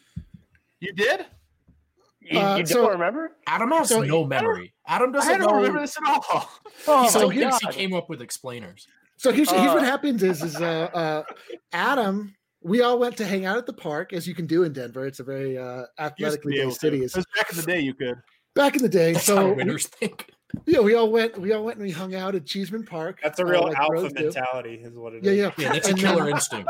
Speaker 2: You did?
Speaker 5: You,
Speaker 3: Uh,
Speaker 5: you
Speaker 3: so-
Speaker 5: don't remember?
Speaker 4: Adam has
Speaker 3: So-
Speaker 4: no memory. Adam
Speaker 2: I
Speaker 4: doesn't
Speaker 2: don't
Speaker 4: know.
Speaker 2: remember this at all.
Speaker 5: Oh
Speaker 4: He
Speaker 5: my
Speaker 4: still thinks he
Speaker 5: God.
Speaker 4: came up with explainers.
Speaker 3: So here's, here's what
Speaker 5: Uh,
Speaker 3: happens is is uh, uh, Adam. We all went to hang out at the park, as you can do in Denver. It's a very uh,
Speaker 2: Used to
Speaker 3: athletically
Speaker 2: be able
Speaker 3: based
Speaker 2: to.
Speaker 3: city.
Speaker 2: It
Speaker 3: It's,
Speaker 2: was back in the day, you could.
Speaker 3: back in the day,
Speaker 4: That's
Speaker 3: so
Speaker 4: how
Speaker 3: we,
Speaker 4: winners think.
Speaker 3: yeah, we all went. We all went and we hung out at Cheeseman Park.
Speaker 1: That's a
Speaker 3: uh,
Speaker 1: real
Speaker 3: like
Speaker 1: alpha
Speaker 3: bros do.
Speaker 1: mentality, is what it is.
Speaker 3: Yeah, yeah,
Speaker 4: Yeah, that's a
Speaker 3: And
Speaker 4: killer
Speaker 3: then-
Speaker 4: instinct.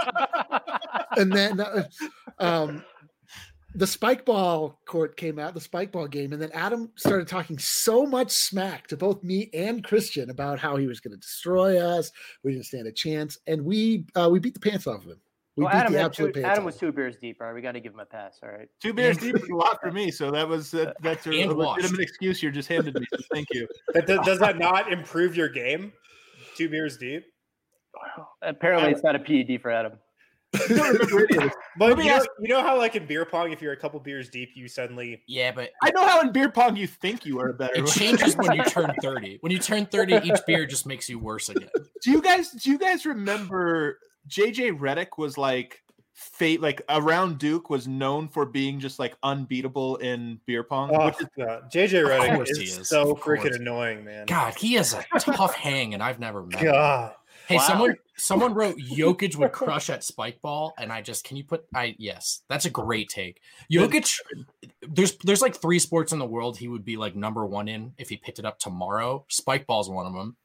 Speaker 3: and then uh, um, the spike ball court came out, the spike ball game, and then Adam started talking so much smack to both me and Christian about how he was going to destroy us. We didn't stand a chance, and we uh, we beat the pants off of him. We
Speaker 5: Well,
Speaker 3: beat
Speaker 5: Adam,
Speaker 3: the
Speaker 5: had
Speaker 3: absolute
Speaker 5: two,
Speaker 3: pants.
Speaker 5: Adam
Speaker 3: off
Speaker 5: was
Speaker 3: of
Speaker 5: two beers deep. All right, we got to give him a pass. All right.
Speaker 2: Two beers deep is a lot for me, so that was that, that's a,
Speaker 4: And
Speaker 2: a
Speaker 4: washed.
Speaker 2: legitimate excuse you just handed me. So thank you.
Speaker 1: That, does, does that not improve your game? Two beers deep?
Speaker 5: Apparently, it's not a P E D for Adam.
Speaker 2: You don't remember any of this.
Speaker 1: But
Speaker 2: Let me
Speaker 1: you know,
Speaker 2: ask-
Speaker 1: you know how, like in beer pong, if you're a couple beers deep, you suddenly.
Speaker 4: Yeah, but
Speaker 2: I know how in beer pong you think you are better.
Speaker 4: it changes when you turn thirty. When you turn thirty, each beer just makes you worse again.
Speaker 2: Do you guys do you guys remember J J Redick was like fate like around Duke was known for being just like unbeatable in beer pong?
Speaker 1: Oh,
Speaker 2: which is,
Speaker 1: God. J J
Speaker 4: Of
Speaker 1: Redick
Speaker 4: course
Speaker 1: is,
Speaker 4: he is.
Speaker 1: so
Speaker 4: Of course.
Speaker 1: freaking annoying, man.
Speaker 4: God, he is a tough hang, and I've never met him.
Speaker 1: God.
Speaker 4: Hey,
Speaker 5: Wow.
Speaker 4: someone someone wrote Jokic would crush at spike ball, and I just can you put I yes, that's a great take. Jokic, there's there's like three sports in the world he would be like number one in if he picked it up tomorrow. Spike ball's one of them.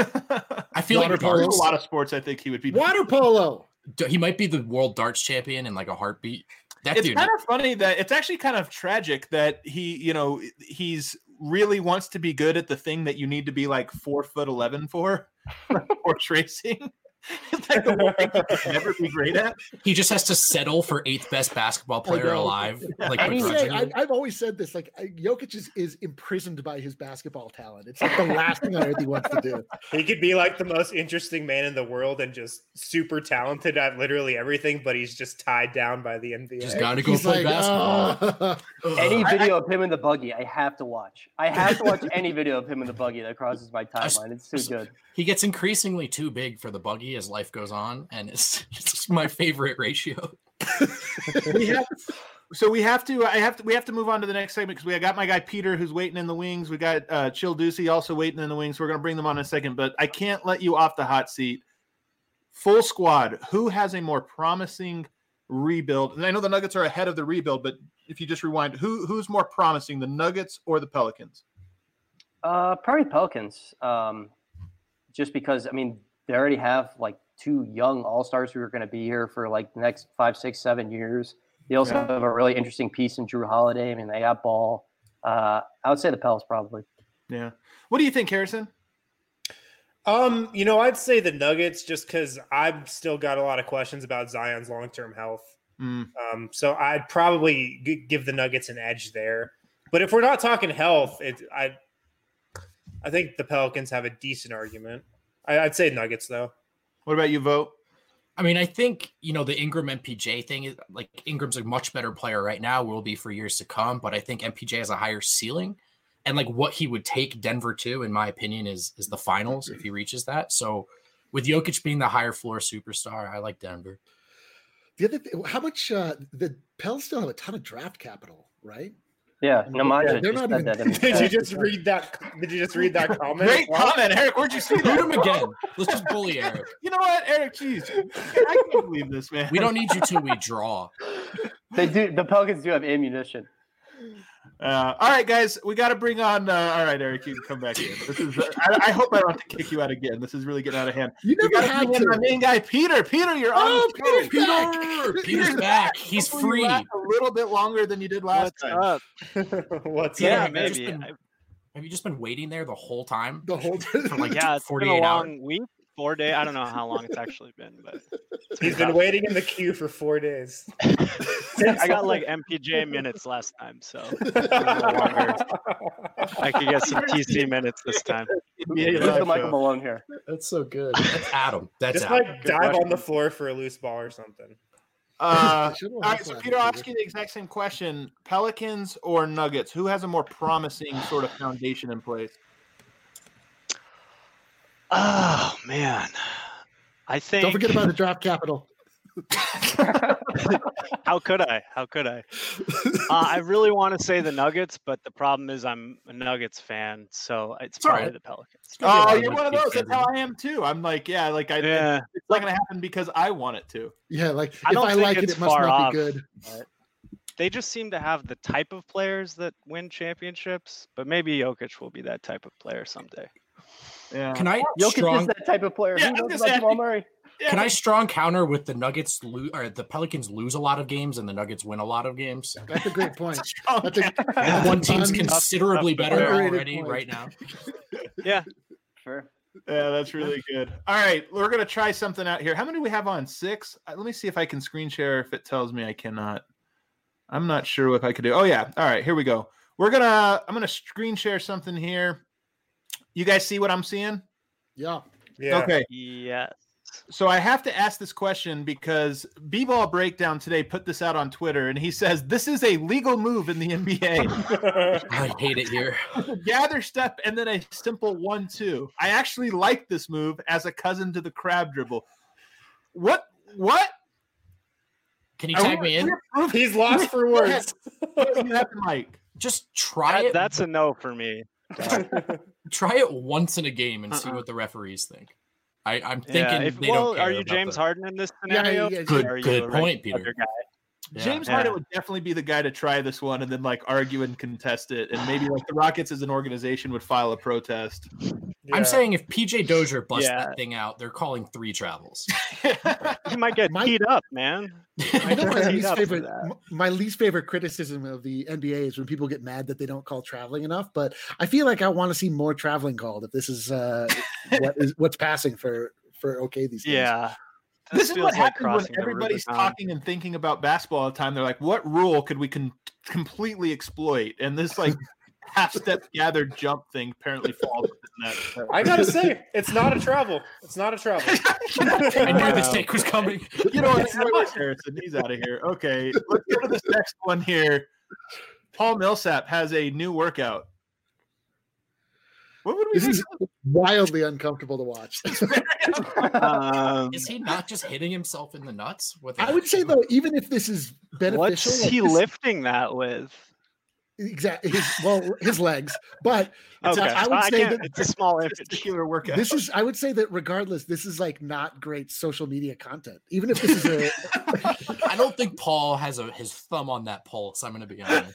Speaker 4: I feel
Speaker 3: Water
Speaker 4: like
Speaker 3: polo.
Speaker 2: There's
Speaker 4: darts,
Speaker 2: a lot of sports I think he would be.
Speaker 3: Water polo.
Speaker 4: he might be the world darts champion in like a heartbeat. That
Speaker 2: It's
Speaker 4: dude,
Speaker 2: kind of funny that it's actually kind of tragic that he, you know, he's really wants to be good at the thing that you need to be like four foot eleven for, horse racing. It's like the one thing he could never be great at.
Speaker 4: he just has to settle for eighth best basketball player
Speaker 3: know.
Speaker 4: alive. Like
Speaker 5: And
Speaker 3: I
Speaker 5: he's-
Speaker 3: say,
Speaker 4: begrudgingly.
Speaker 3: I, I've always said this: like I- Jokic is, is imprisoned by his basketball talent. It's like the last thing on earth he wants to do.
Speaker 1: He could be like the most interesting man in the world and just super talented at literally everything, but he's just tied down by the N B A.
Speaker 4: just gotta go
Speaker 3: He's
Speaker 4: play
Speaker 3: like,
Speaker 4: basketball.
Speaker 3: "Oh."
Speaker 5: Any
Speaker 2: I-
Speaker 5: video of him in the buggy, I have to watch. I have to watch any video of him in the buggy that crosses my timeline. It's too good.
Speaker 4: He gets increasingly too big for the buggy as life goes on, and it's, it's my favorite ratio.
Speaker 2: We have, so we have to. I have to. We have to move on to the next segment because we got my guy Peter who's waiting in the wings. We got uh, Chill Ducey also waiting in the wings. We're going to bring them on in a second, but I can't let you off the hot seat. Full squad. Who has a more promising rebuild? And I know the Nuggets are ahead of the rebuild, but if you just rewind, who who's more promising, the Nuggets or the Pelicans?
Speaker 5: Uh, probably Pelicans. Um, just because I mean they already have like two young all stars who are going to be here for like the next five, six, seven years. They also
Speaker 2: Yeah.
Speaker 5: have a really interesting piece in Drew Holiday. I mean, they got Ball. Uh, I would say the Pels probably.
Speaker 2: Yeah. What do you think, Harrison?
Speaker 1: Um, you know, I'd say the Nuggets just because I've still got a lot of questions about Zion's long-term health.
Speaker 2: Mm.
Speaker 1: Um, so I'd probably g- give the Nuggets an edge there. But if we're not talking health, it, I, I think the Pelicans have a decent argument. I, I'd say Nuggets though.
Speaker 2: What about you, Vote?
Speaker 4: I mean, I think, you know, the Ingram M P J thing is like Ingram's a much better player right now, will be for years to come. But I think M P J has a higher ceiling. And like what he would take Denver to, in my opinion, is is the finals if he reaches that. So with Jokic being the higher floor superstar, I like Denver.
Speaker 3: The other thing, how much uh, the Pels still have a ton of draft capital, right?
Speaker 5: Yeah, Nemanja
Speaker 3: Yeah, they're
Speaker 5: just
Speaker 3: not
Speaker 5: said
Speaker 3: even-
Speaker 5: that. In the
Speaker 1: Did you
Speaker 5: chat.
Speaker 1: just read that? Did you just read that comment?
Speaker 2: Great comment, Eric. Where'd you see
Speaker 4: Boot
Speaker 2: that?
Speaker 4: him again. Let's just bully Eric.
Speaker 2: You know what, Eric? Jeez, I can't believe this, man.
Speaker 4: We don't need you till we draw.
Speaker 5: They do. The Pelicans do have ammunition.
Speaker 2: Uh, all right, guys, we got to bring on. Uh, all right, Eric, you can come back in. This is. Uh, I, I hope I don't have to kick you out again. This is really getting out of hand.
Speaker 3: You
Speaker 2: We
Speaker 3: never
Speaker 2: got to
Speaker 3: had
Speaker 2: bring in
Speaker 3: to.
Speaker 2: my main guy, Peter. Peter, you're
Speaker 3: Oh,
Speaker 2: on. the show.
Speaker 3: Peter's back.
Speaker 4: Peter's back. He's
Speaker 2: Hopefully you
Speaker 4: free.
Speaker 2: last a little bit longer than you did last
Speaker 6: What's
Speaker 2: time.
Speaker 6: up?
Speaker 1: What's
Speaker 4: Peter,
Speaker 6: Yeah,
Speaker 1: up?
Speaker 4: have you just
Speaker 6: maybe.
Speaker 4: been-
Speaker 6: I-
Speaker 4: Have you just been waiting there the whole time?
Speaker 3: The whole
Speaker 4: For like
Speaker 6: yeah, it's been a
Speaker 4: forty-eight hours.
Speaker 6: long week, four days. I don't know how long it's actually been, but it's
Speaker 1: He's been
Speaker 6: tough.
Speaker 1: waiting in the queue for four days.
Speaker 6: I got like M P J minutes last time, so longer. I could get some T C minutes this time.
Speaker 2: Yeah,
Speaker 5: Who's
Speaker 2: live
Speaker 5: the Michael
Speaker 2: show.
Speaker 5: Malone here?
Speaker 4: That's so good. That's Adam. That's
Speaker 1: Just
Speaker 4: Adam.
Speaker 1: like
Speaker 6: Good
Speaker 1: dive
Speaker 6: question.
Speaker 1: on the floor for a loose ball or something.
Speaker 2: Uh,
Speaker 3: I should've
Speaker 2: all
Speaker 3: won
Speaker 2: right,
Speaker 3: this
Speaker 2: so
Speaker 3: last
Speaker 2: Peter, I'll
Speaker 3: year.
Speaker 2: ask you the exact same question: Pelicans or Nuggets? Who has a more promising sort of foundation in place?
Speaker 6: Oh man, I think.
Speaker 3: Don't forget about the draft capital.
Speaker 6: How could I? How could I? Uh, I really want to say the Nuggets, but the problem is I'm a Nuggets fan, so it's
Speaker 4: all
Speaker 6: probably
Speaker 4: right.
Speaker 6: the Pelicans.
Speaker 2: Oh,
Speaker 4: Yeah,
Speaker 2: you're one of
Speaker 4: Nuggets
Speaker 2: those. That's
Speaker 4: fans.
Speaker 2: how I am too. I'm like, yeah, like I.
Speaker 6: Yeah,
Speaker 2: It's not gonna happen because I want it to.
Speaker 3: Yeah, like
Speaker 6: I
Speaker 3: if
Speaker 6: don't
Speaker 3: I
Speaker 6: think
Speaker 3: like it,
Speaker 6: it's
Speaker 3: it must
Speaker 6: far
Speaker 3: not
Speaker 6: off.
Speaker 3: be good.
Speaker 6: they just seem to have the type of players that win championships, but maybe Jokic will be that type of player someday.
Speaker 2: Yeah.
Speaker 4: Can I
Speaker 5: Jokic
Speaker 4: strong?
Speaker 5: is that type of player.
Speaker 2: Yeah, I
Speaker 5: Who
Speaker 2: was
Speaker 5: knows
Speaker 2: gonna
Speaker 5: about
Speaker 2: say,
Speaker 5: Jamal Murray?
Speaker 2: Yeah.
Speaker 4: Can I strong counter with the Nuggets lose or the Pelicans lose a lot of games and the Nuggets win a lot of games?
Speaker 3: That's a great point.
Speaker 2: Strong
Speaker 3: That's a,
Speaker 2: counter.
Speaker 4: One team's
Speaker 3: un-
Speaker 4: considerably better
Speaker 3: Underrated
Speaker 4: already
Speaker 3: point.
Speaker 4: right now.
Speaker 6: Yeah,
Speaker 5: Sure.
Speaker 2: Yeah, that's really good. All right, we're gonna try something out here. How many do we have on? Six. Uh, Let me see if I can screen share. If it tells me I cannot, I'm not sure if I could do. Oh yeah. All right, here we go. We're gonna. I'm gonna screen share something here. You guys see what I'm seeing?
Speaker 3: yeah.
Speaker 1: Yeah.
Speaker 2: Okay.
Speaker 6: yes.
Speaker 2: So I have to ask this question because B-Ball Breakdown today put this out on Twitter, and he says this is a legal move in the N B A.
Speaker 4: I hate it here.
Speaker 2: Gather step and then a simple one-two. I actually like this move as a cousin to the crab dribble. What? What?
Speaker 4: Can you
Speaker 2: Are
Speaker 4: tag
Speaker 2: we-
Speaker 4: me in?
Speaker 2: we're-
Speaker 1: He's lost for
Speaker 2: Go ahead.
Speaker 1: words.
Speaker 2: You have the mic.
Speaker 4: Just try
Speaker 6: That,
Speaker 4: it.
Speaker 6: that's a no for me.
Speaker 4: Try it once in a game and see
Speaker 6: Uh-uh.
Speaker 4: what the referees think. I, I'm
Speaker 6: Yeah,
Speaker 4: thinking
Speaker 6: if,
Speaker 4: they
Speaker 6: well,
Speaker 4: don't care
Speaker 6: are you
Speaker 4: about
Speaker 6: James
Speaker 4: the-
Speaker 6: Harden in this
Speaker 3: Yeah,
Speaker 6: scenario?
Speaker 3: yeah,
Speaker 4: Good-
Speaker 6: Or are you
Speaker 4: good
Speaker 6: a
Speaker 4: point,
Speaker 6: regular
Speaker 4: Peter.
Speaker 6: guy?
Speaker 4: Yeah.
Speaker 2: James
Speaker 6: Yeah.
Speaker 2: Harden would definitely be the guy to try this one and then like argue and contest it. And maybe like the Rockets as an organization would file a protest.
Speaker 1: Yeah.
Speaker 4: I'm saying if P J Dozier busts
Speaker 6: Yeah.
Speaker 4: that thing out, they're calling three travels.
Speaker 6: He might get
Speaker 3: My-
Speaker 6: teed up, man.
Speaker 3: I know my
Speaker 6: Teed
Speaker 3: least
Speaker 6: up for
Speaker 3: favorite.
Speaker 6: that.
Speaker 3: m- My least favorite criticism of the N B A is when people get mad that they don't call traveling enough. But I feel like I want to see more traveling called if this is uh, what is what's passing for for okay these days.
Speaker 6: Yeah.
Speaker 2: This is
Speaker 6: feels
Speaker 2: what
Speaker 6: like
Speaker 2: happens when
Speaker 6: crossing the
Speaker 2: everybody's
Speaker 6: Rubicon.
Speaker 2: talking and thinking about basketball all the time. They're like, what rule could we con- completely exploit? And this like half step gathered jump thing apparently falls within that.
Speaker 1: I gotta say, it's not a travel. It's not a travel.
Speaker 4: I knew this take was coming.
Speaker 2: You know what? Wes Harrison, he's out of here. Okay, let's go to this next one here. Paul Millsap has a new workout. What would we
Speaker 3: This is wildly uncomfortable to watch.
Speaker 6: Um,
Speaker 4: Is he not just hitting himself in the nuts? With
Speaker 3: I would say though, even if this is beneficial,
Speaker 6: what's
Speaker 3: like,
Speaker 6: he
Speaker 3: this-
Speaker 6: lifting that with?
Speaker 3: Exactly. His, well, his legs, but
Speaker 6: Okay,
Speaker 3: I would
Speaker 6: I
Speaker 3: say
Speaker 6: can't-
Speaker 3: that
Speaker 6: it's a small image.
Speaker 2: particular workout?
Speaker 3: this is. I would say that regardless, this is like not great social media content. Even if this is a,
Speaker 4: I don't think Paul has a his thumb on that pulse. I'm going to be honest.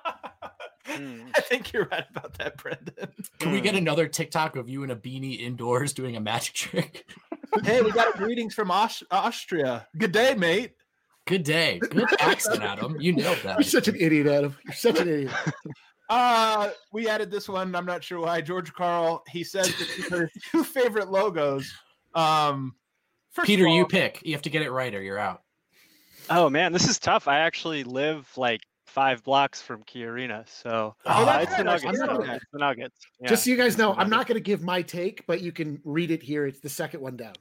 Speaker 6: Hmm.
Speaker 2: I think you're right about that, Brendan.
Speaker 4: Can we get another TikTok of you in a beanie indoors doing a magic trick?
Speaker 2: Hey, we got greetings from Aus- Austria. Good day, mate.
Speaker 4: Good day. Good accent, Adam. You nailed
Speaker 3: you're
Speaker 4: that.
Speaker 3: such an idiot, Adam. You're such an idiot.
Speaker 2: Uh, we added this one. I'm not sure why. George Carl, he says that these are his two favorite logos. Um,
Speaker 4: Peter,
Speaker 2: all,
Speaker 4: you pick. You have to get it right or you're out.
Speaker 6: Oh man, this is tough. I actually live like five blocks from Key Arena, so
Speaker 3: Oh,
Speaker 6: uh, it's the
Speaker 3: that's
Speaker 6: Nuggets.
Speaker 3: good.
Speaker 6: though. It's the Nuggets. Yeah.
Speaker 3: Just so you guys know, I'm not going to give my take, but you can read it here. It's the second one down.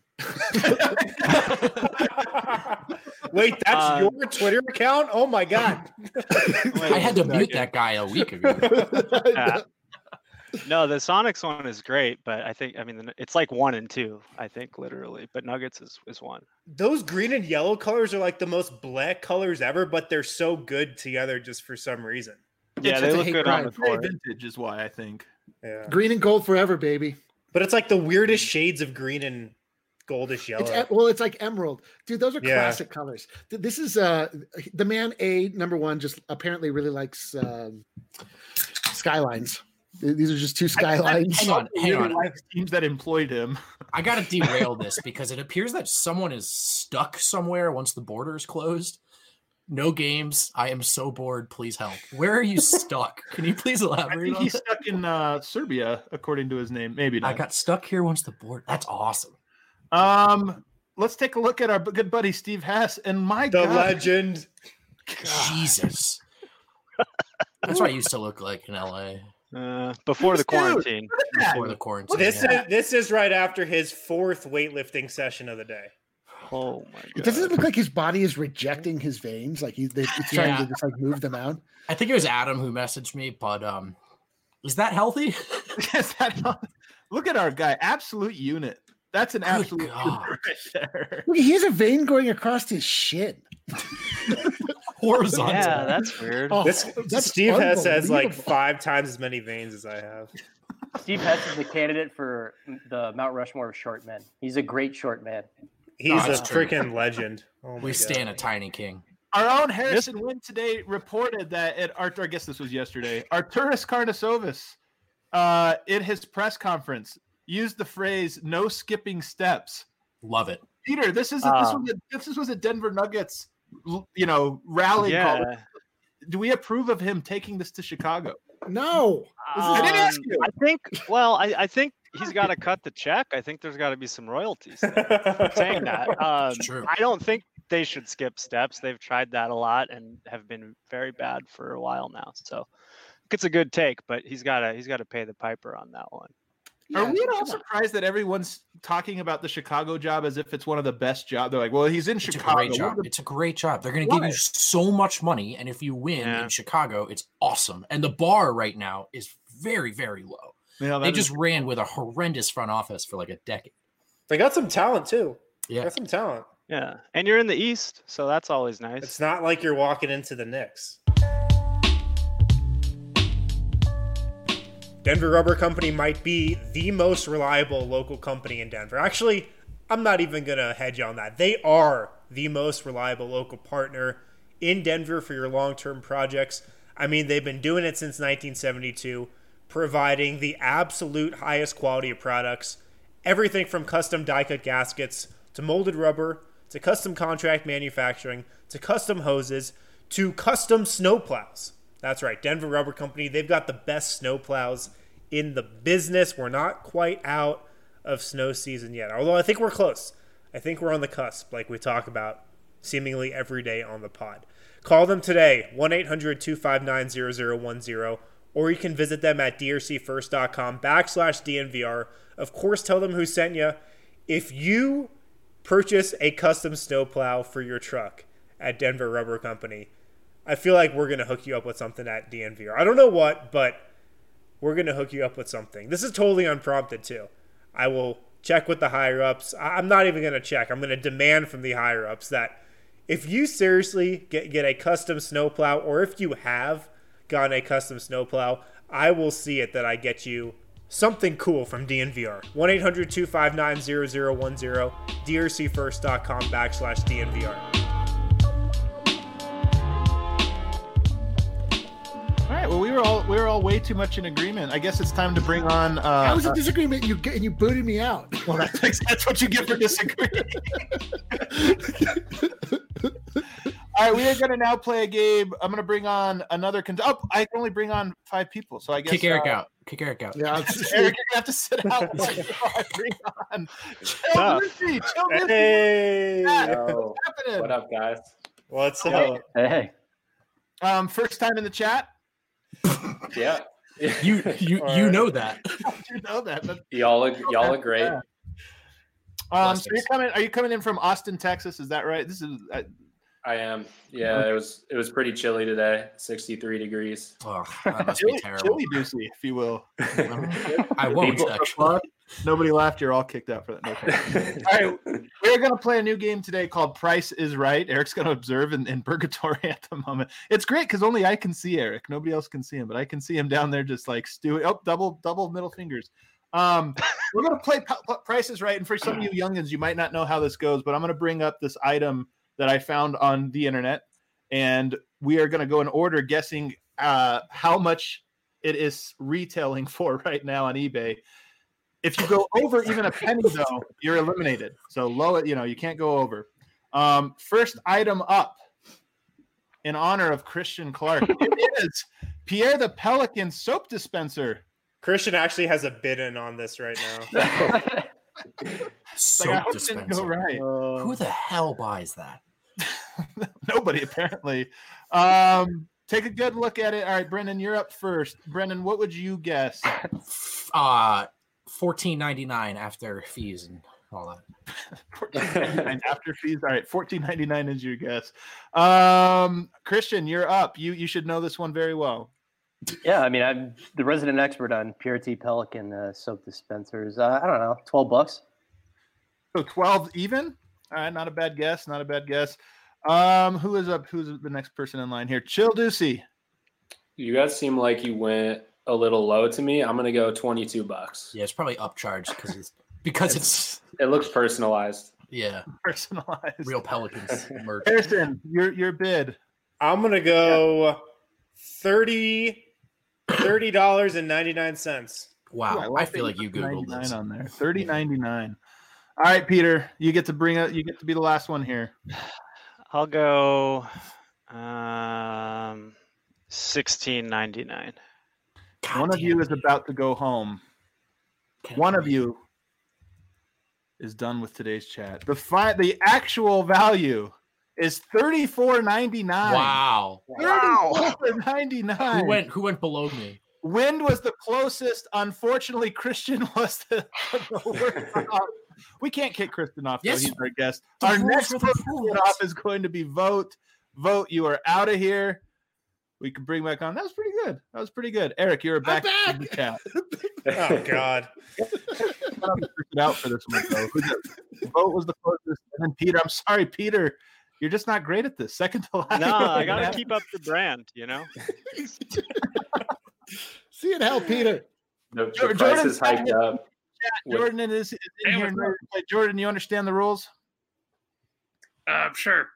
Speaker 1: Wait, that's
Speaker 6: Um,
Speaker 1: your Twitter account? Oh my god!
Speaker 4: I had to mute that guy a week ago.
Speaker 6: Yeah. No, the Sonics one is great, but I think I mean the- it's like one and two. I think literally, but Nuggets is is one.
Speaker 1: Those green and yellow colors are like the most black colors ever, but they're so good together just for some reason.
Speaker 6: Yeah,
Speaker 3: It's
Speaker 6: they
Speaker 3: a
Speaker 6: look
Speaker 3: hate
Speaker 6: good
Speaker 3: crime.
Speaker 6: on the
Speaker 2: very
Speaker 6: court.
Speaker 2: vintage is why I think.
Speaker 1: Yeah,
Speaker 3: Green and gold forever, baby.
Speaker 1: but it's like the weirdest shades of green and goldish yellow.
Speaker 3: It's e- well, it's like emerald, dude. Those are
Speaker 1: Yeah.
Speaker 3: classic colors. Th- This is uh the man A number one. Just apparently really likes um, skylines. Th- These are just two skylines.
Speaker 4: Hang on, hang
Speaker 2: Really
Speaker 4: on.
Speaker 2: likes teams that employed him.
Speaker 4: I got to derail this because it appears that someone is stuck somewhere once the border is closed. No games. I am so bored. Please help. Where are you stuck? Can you please
Speaker 2: I
Speaker 4: elaborate
Speaker 2: think
Speaker 4: on
Speaker 2: he's
Speaker 4: that?
Speaker 2: stuck in uh, Serbia, according to his name. Maybe
Speaker 4: I
Speaker 2: not.
Speaker 4: got stuck here once the border. That's awesome.
Speaker 2: Um, let's take a look at our good buddy Steve Hess. And my
Speaker 1: The
Speaker 2: God,
Speaker 1: legend.
Speaker 4: Jesus. That's what I used to look like in L A
Speaker 6: Uh, before the
Speaker 2: Dude,
Speaker 6: quarantine.
Speaker 4: before the quarantine.
Speaker 1: This
Speaker 4: yeah.
Speaker 1: is this is right after his fourth weightlifting session of the day.
Speaker 6: Oh my god.
Speaker 3: Doesn't it look like his body is rejecting his veins? Like he's, they, it's trying
Speaker 4: Yeah.
Speaker 3: to just like move them out.
Speaker 4: I think it was Adam who messaged me, but um, is that healthy?
Speaker 2: Is that not- look at our guy, absolute unit. That's an
Speaker 4: Good
Speaker 2: absolute
Speaker 4: God.
Speaker 2: unit right there.
Speaker 3: Look, he has a vein going across his shin.
Speaker 4: Horizontal.
Speaker 6: Yeah, that's weird.
Speaker 3: Oh,
Speaker 1: This
Speaker 3: that's
Speaker 1: Steve Hess has like
Speaker 3: unbelievable.
Speaker 1: five times as many veins as I have.
Speaker 5: Steve Hess is the candidate for the Mount Rushmore of short men. He's a great short man.
Speaker 1: He's
Speaker 4: Oh,
Speaker 1: a
Speaker 4: that's true.
Speaker 1: freaking legend. Oh my
Speaker 4: We
Speaker 1: God.
Speaker 4: stand a tiny king.
Speaker 2: Our own Harrison Wynn today reported that at Artur, I guess this was yesterday, Arturas Karnisovas, uh, in his press conference, used the phrase "no skipping steps."
Speaker 4: Love it.
Speaker 2: Peter, this is a,
Speaker 6: Ah.
Speaker 2: this was a, this was a Denver Nuggets, you know, rally call.
Speaker 6: Yeah.
Speaker 2: Do we approve of him taking this to Chicago?
Speaker 3: No.
Speaker 2: I didn't ask
Speaker 6: Um,
Speaker 2: you.
Speaker 6: I think. Well, I, I think he's got to cut the check. I think there's got to be some royalties there. I'm saying that. Um,
Speaker 4: It's true.
Speaker 6: I don't think they should skip steps. They've tried that a lot and have been very bad for a while now. So I think it's a good take, but he's got to he's got to pay the piper on that one.
Speaker 2: Are
Speaker 3: Yeah,
Speaker 2: we at all
Speaker 3: come on.
Speaker 2: surprised that everyone's talking about the Chicago job as if it's one of the best jobs? They're like, well, he's in
Speaker 4: It's a
Speaker 2: Chicago.
Speaker 4: great
Speaker 2: What
Speaker 4: job.
Speaker 2: are the-
Speaker 4: It's a great job. They're going to give
Speaker 2: Why?
Speaker 4: you so much money, and if you win
Speaker 6: Yeah.
Speaker 4: in Chicago, it's awesome. And the bar right now is very, very low.
Speaker 2: Yeah,
Speaker 4: They
Speaker 2: that is-
Speaker 4: just ran with a horrendous front office for like a decade.
Speaker 1: They got some talent too. They
Speaker 4: Yeah,
Speaker 1: got some talent.
Speaker 6: Yeah, and you're in the East, so that's always nice.
Speaker 1: It's not like you're walking into the Knicks. Denver Rubber Company might be the most reliable local company in Denver. Actually, I'm not even going to hedge on that. They are the most reliable local partner in Denver for your long-term projects. I mean, they've been doing it since nineteen seventy-two, providing the absolute highest quality of products. Everything from custom die-cut gaskets to molded rubber to custom contract manufacturing to custom hoses to custom snowplows. That's right, Denver Rubber Company. They've got the best snowplows in the business. We're not quite out of snow season yet, although I think we're close. I think we're on the cusp, like we talk about seemingly every day on the pod. Call them today, one eight hundred two five nine zero zero one zero, or you can visit them at drcfirst.com backslash DNVR. Of course, tell them who sent you. If you purchase a custom snowplow for your truck at Denver Rubber Company, I feel like we're going to hook you up with something at D N V R. I don't know what, but we're going to hook you up with something. This is totally unprompted, too. I will check with the higher-ups. I- I'm not even going to check. I'm going to demand from the higher-ups that if you seriously get, get a custom snowplow, or if you have gotten a custom snowplow, I will see it that I get you something cool from D N V R. one eight hundred two five nine zero zero one zero, drcfirst.com backslash DNVR.
Speaker 2: All right. Well, we were all we were all way too much in agreement. I guess it's time to bring on. Uh,
Speaker 3: How was a disagreement? You and you booted me out.
Speaker 2: well, that's, that's what you get for disagreeing. All right, we are going to now play a game. I'm going to bring on another. Con- oh, I can only bring on five people, so I guess
Speaker 4: kick Eric
Speaker 2: uh,
Speaker 4: out. Kick Eric out.
Speaker 3: Yeah,
Speaker 2: Eric, you're going to have to sit out. I bring on Chill Lucy. Chill Lucy.
Speaker 1: Hey,
Speaker 7: Yo,
Speaker 2: What's happening?
Speaker 7: what up, guys?
Speaker 1: what's up?
Speaker 5: Hey,
Speaker 2: Um, first time in the chat.
Speaker 7: Yeah,
Speaker 4: You you you know that.
Speaker 2: You know that. That's-
Speaker 7: y'all look, y'all look great.
Speaker 2: Yeah. Um, so
Speaker 4: Blessings.
Speaker 2: you're coming? Are you coming in from Austin, Texas? Is that right? This is. Uh,
Speaker 7: I am. Yeah, it was it was pretty chilly today, sixty-three degrees.
Speaker 4: Oh, that must
Speaker 2: chilly,
Speaker 4: be terrible.
Speaker 2: chilly Deucey, if you will.
Speaker 4: I won't
Speaker 7: People-
Speaker 4: actually.
Speaker 2: Nobody laughed. You're all kicked out for that. No, all right, we're gonna play a new game today called Price is Right. Eric's gonna observe in, in purgatory at the moment. It's great because only I can see Eric. Nobody else can see him, but I can see him down there just like stewing. Oh, double double middle fingers. Um, we're gonna play P- P- Price is Right, and for some of you youngins, you might not know how this goes, but I'm gonna bring up this item that I found on the internet, and we are gonna go in order, guessing uh, how much it is retailing for right now on eBay. If you go over even a penny, though, you're eliminated. So low, you know, you can't go over. Um, first item up, in honor of Christian Clark, it is Pierre the Pelican soap dispenser.
Speaker 1: Christian actually has a bid in on this right now.
Speaker 4: Soap
Speaker 2: Like, I hope it didn't go
Speaker 4: dispenser.
Speaker 2: right.
Speaker 4: Who the hell buys that?
Speaker 2: Nobody apparently. Um, take a good look at it. All right, Brendan, you're up first. Brendan, what would you guess?
Speaker 4: Uh fourteen ninety nine after fees and all that.
Speaker 2: fourteen ninety-nine after fees. All right, fourteen ninety-nine is your guess. Um, Christian, you're up. You you should know this one very well.
Speaker 5: yeah. I mean, I'm the resident expert on Purity Pelican uh, soap dispensers. Uh, I don't know, twelve bucks.
Speaker 2: So twelve even. All right, not a bad guess. Not a bad guess. Um, who is up? Who's the next person in line here? Chill Deucey.
Speaker 7: You guys seem like you went a little low to me. I'm gonna go twenty-two bucks.
Speaker 4: Yeah, it's probably upcharged because it's because it's
Speaker 7: It looks personalized.
Speaker 4: yeah,
Speaker 2: Personalized.
Speaker 4: real Pelicans merch.
Speaker 2: Harrison, your your bid.
Speaker 1: I'm gonna go thirty thirty dollars and ninety nine cents.
Speaker 4: Wow,
Speaker 2: Ooh,
Speaker 4: I,
Speaker 2: like
Speaker 4: feel
Speaker 2: that
Speaker 4: like you
Speaker 2: put
Speaker 4: googled
Speaker 2: ninety-nine
Speaker 4: this.
Speaker 2: on there. thirty ninety-nine. All right, Peter, you get to bring it. You get to be the last one here.
Speaker 6: I'll go um, sixteen ninety nine.
Speaker 4: God
Speaker 2: One of
Speaker 4: damn
Speaker 2: you
Speaker 4: it.
Speaker 2: is about to go home.
Speaker 4: Can't
Speaker 2: One of
Speaker 4: believe
Speaker 2: you is done with today's chat. The fi- the actual value is thirty-four ninety-nine.
Speaker 4: Wow.
Speaker 2: thirty-four ninety-nine.
Speaker 4: Who went who went below me?
Speaker 2: Wind was the closest. Unfortunately, Christian was the, the worst off. We can't kick Christian off, though.
Speaker 4: Yes.
Speaker 2: He's our guest.
Speaker 4: The
Speaker 2: Our
Speaker 4: rules
Speaker 2: next
Speaker 4: are the
Speaker 2: person to
Speaker 4: rules.
Speaker 2: get off is going to be Vote. Vote, you are out of here. We can bring back on. That was pretty good. That was pretty good. Eric, you're back,
Speaker 3: back.
Speaker 2: in the chat.
Speaker 1: Oh God.
Speaker 2: I'm freaking out for this one, though. Who's it? Vote was the closest. And then Peter. I'm sorry, Peter. You're just not great at this. Second to last.
Speaker 6: No, I gotta keep up the brand, you know.
Speaker 3: See it help, Peter.
Speaker 7: The, the
Speaker 2: Jordan-
Speaker 7: price
Speaker 2: Jordan's
Speaker 7: is hiked up. with-
Speaker 2: Jordan is is in
Speaker 8: Hey,
Speaker 2: here.
Speaker 8: what's up?
Speaker 2: Hey, Jordan, you understand the rules?
Speaker 8: Uh, sure.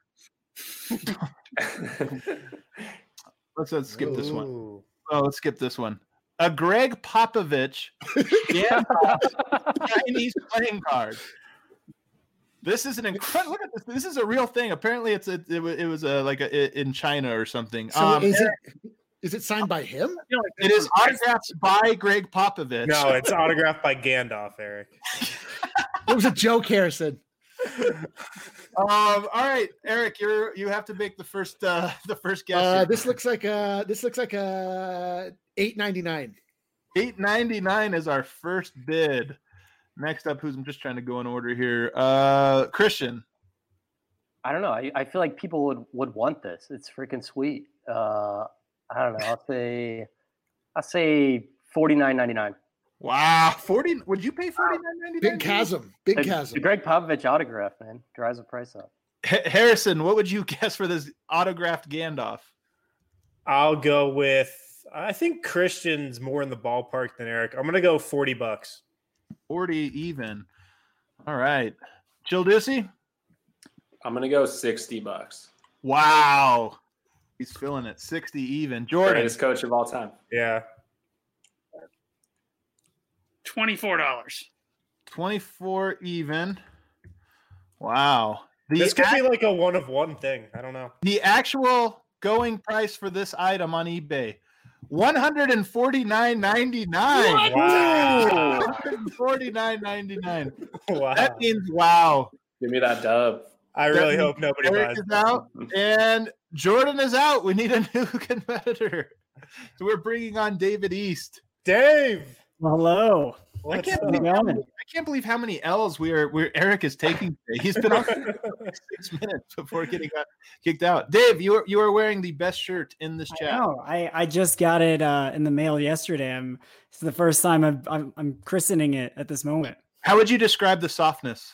Speaker 2: Let's, let's skip this one.
Speaker 1: Ooh.
Speaker 2: Oh, let's skip this one. A Greg Popovich Gandalf Chinese playing card. This is an incredible. Look at this. This is a real thing. Apparently, it's a, it, wa- it was a, like a, in China or something.
Speaker 3: So
Speaker 2: um,
Speaker 3: is it is it signed by him?
Speaker 2: it is autographed by Greg Popovich.
Speaker 1: No, it's autographed by Gandalf, Eric.
Speaker 3: It was a joke, Harrison.
Speaker 2: Um. All right, Eric, you're you have to make the first uh the first guess.
Speaker 3: Uh, this looks like a this looks like a eight ninety nine.
Speaker 2: eight ninety-nine is our first bid. Next up, who's I'm just trying to go in order here. Uh, Christian.
Speaker 5: I don't know. I, I feel like people would, would want this. It's freaking sweet. Uh, I don't know. I'll say I'll say forty nine ninety nine.
Speaker 2: Wow, forty. Would you pay forty nine ninety nine?
Speaker 3: Big chasm. Big
Speaker 5: The,
Speaker 3: chasm.
Speaker 5: the Greg Popovich autograph, man, drives the price up.
Speaker 2: Harrison, what would you guess for this autographed Gandalf?
Speaker 1: I'll go with. I think Christian's more in the ballpark than Eric. I'm gonna go forty bucks.
Speaker 2: forty even. All right, Jill Ducey.
Speaker 7: I'm gonna go sixty bucks.
Speaker 2: Wow, he's feeling it. sixty even. Jordan.
Speaker 7: Greatest coach of all time.
Speaker 1: Yeah.
Speaker 8: Twenty-four dollars.
Speaker 2: twenty-four even. Wow. The
Speaker 1: This could
Speaker 2: act-
Speaker 1: be like a one of one thing. I don't know.
Speaker 2: the actual going price for this item on eBay, one hundred forty-nine ninety-nine.
Speaker 1: Wow.
Speaker 2: one hundred forty-nine ninety-nine.
Speaker 1: Wow.
Speaker 2: That means wow.
Speaker 7: Give me that dub.
Speaker 1: I
Speaker 2: That
Speaker 1: really
Speaker 2: means
Speaker 1: hope nobody
Speaker 2: Eric
Speaker 1: buys
Speaker 2: is
Speaker 1: this.
Speaker 2: out and Jordan is out. We need a new competitor. So we're bringing on David East.
Speaker 1: Dave.
Speaker 9: Hello.
Speaker 2: I
Speaker 1: What's
Speaker 2: can't,
Speaker 1: up?
Speaker 2: believe how many, I can't believe how many L's we are where Eric is taking today. He's been on for six minutes before getting got kicked out. Dave, you are you are wearing the best shirt in this
Speaker 9: I
Speaker 2: chat.
Speaker 9: know. I, I just got it uh, in the mail yesterday. I'm it's the first time I've, I'm I'm christening it at this moment.
Speaker 2: How would you describe the softness?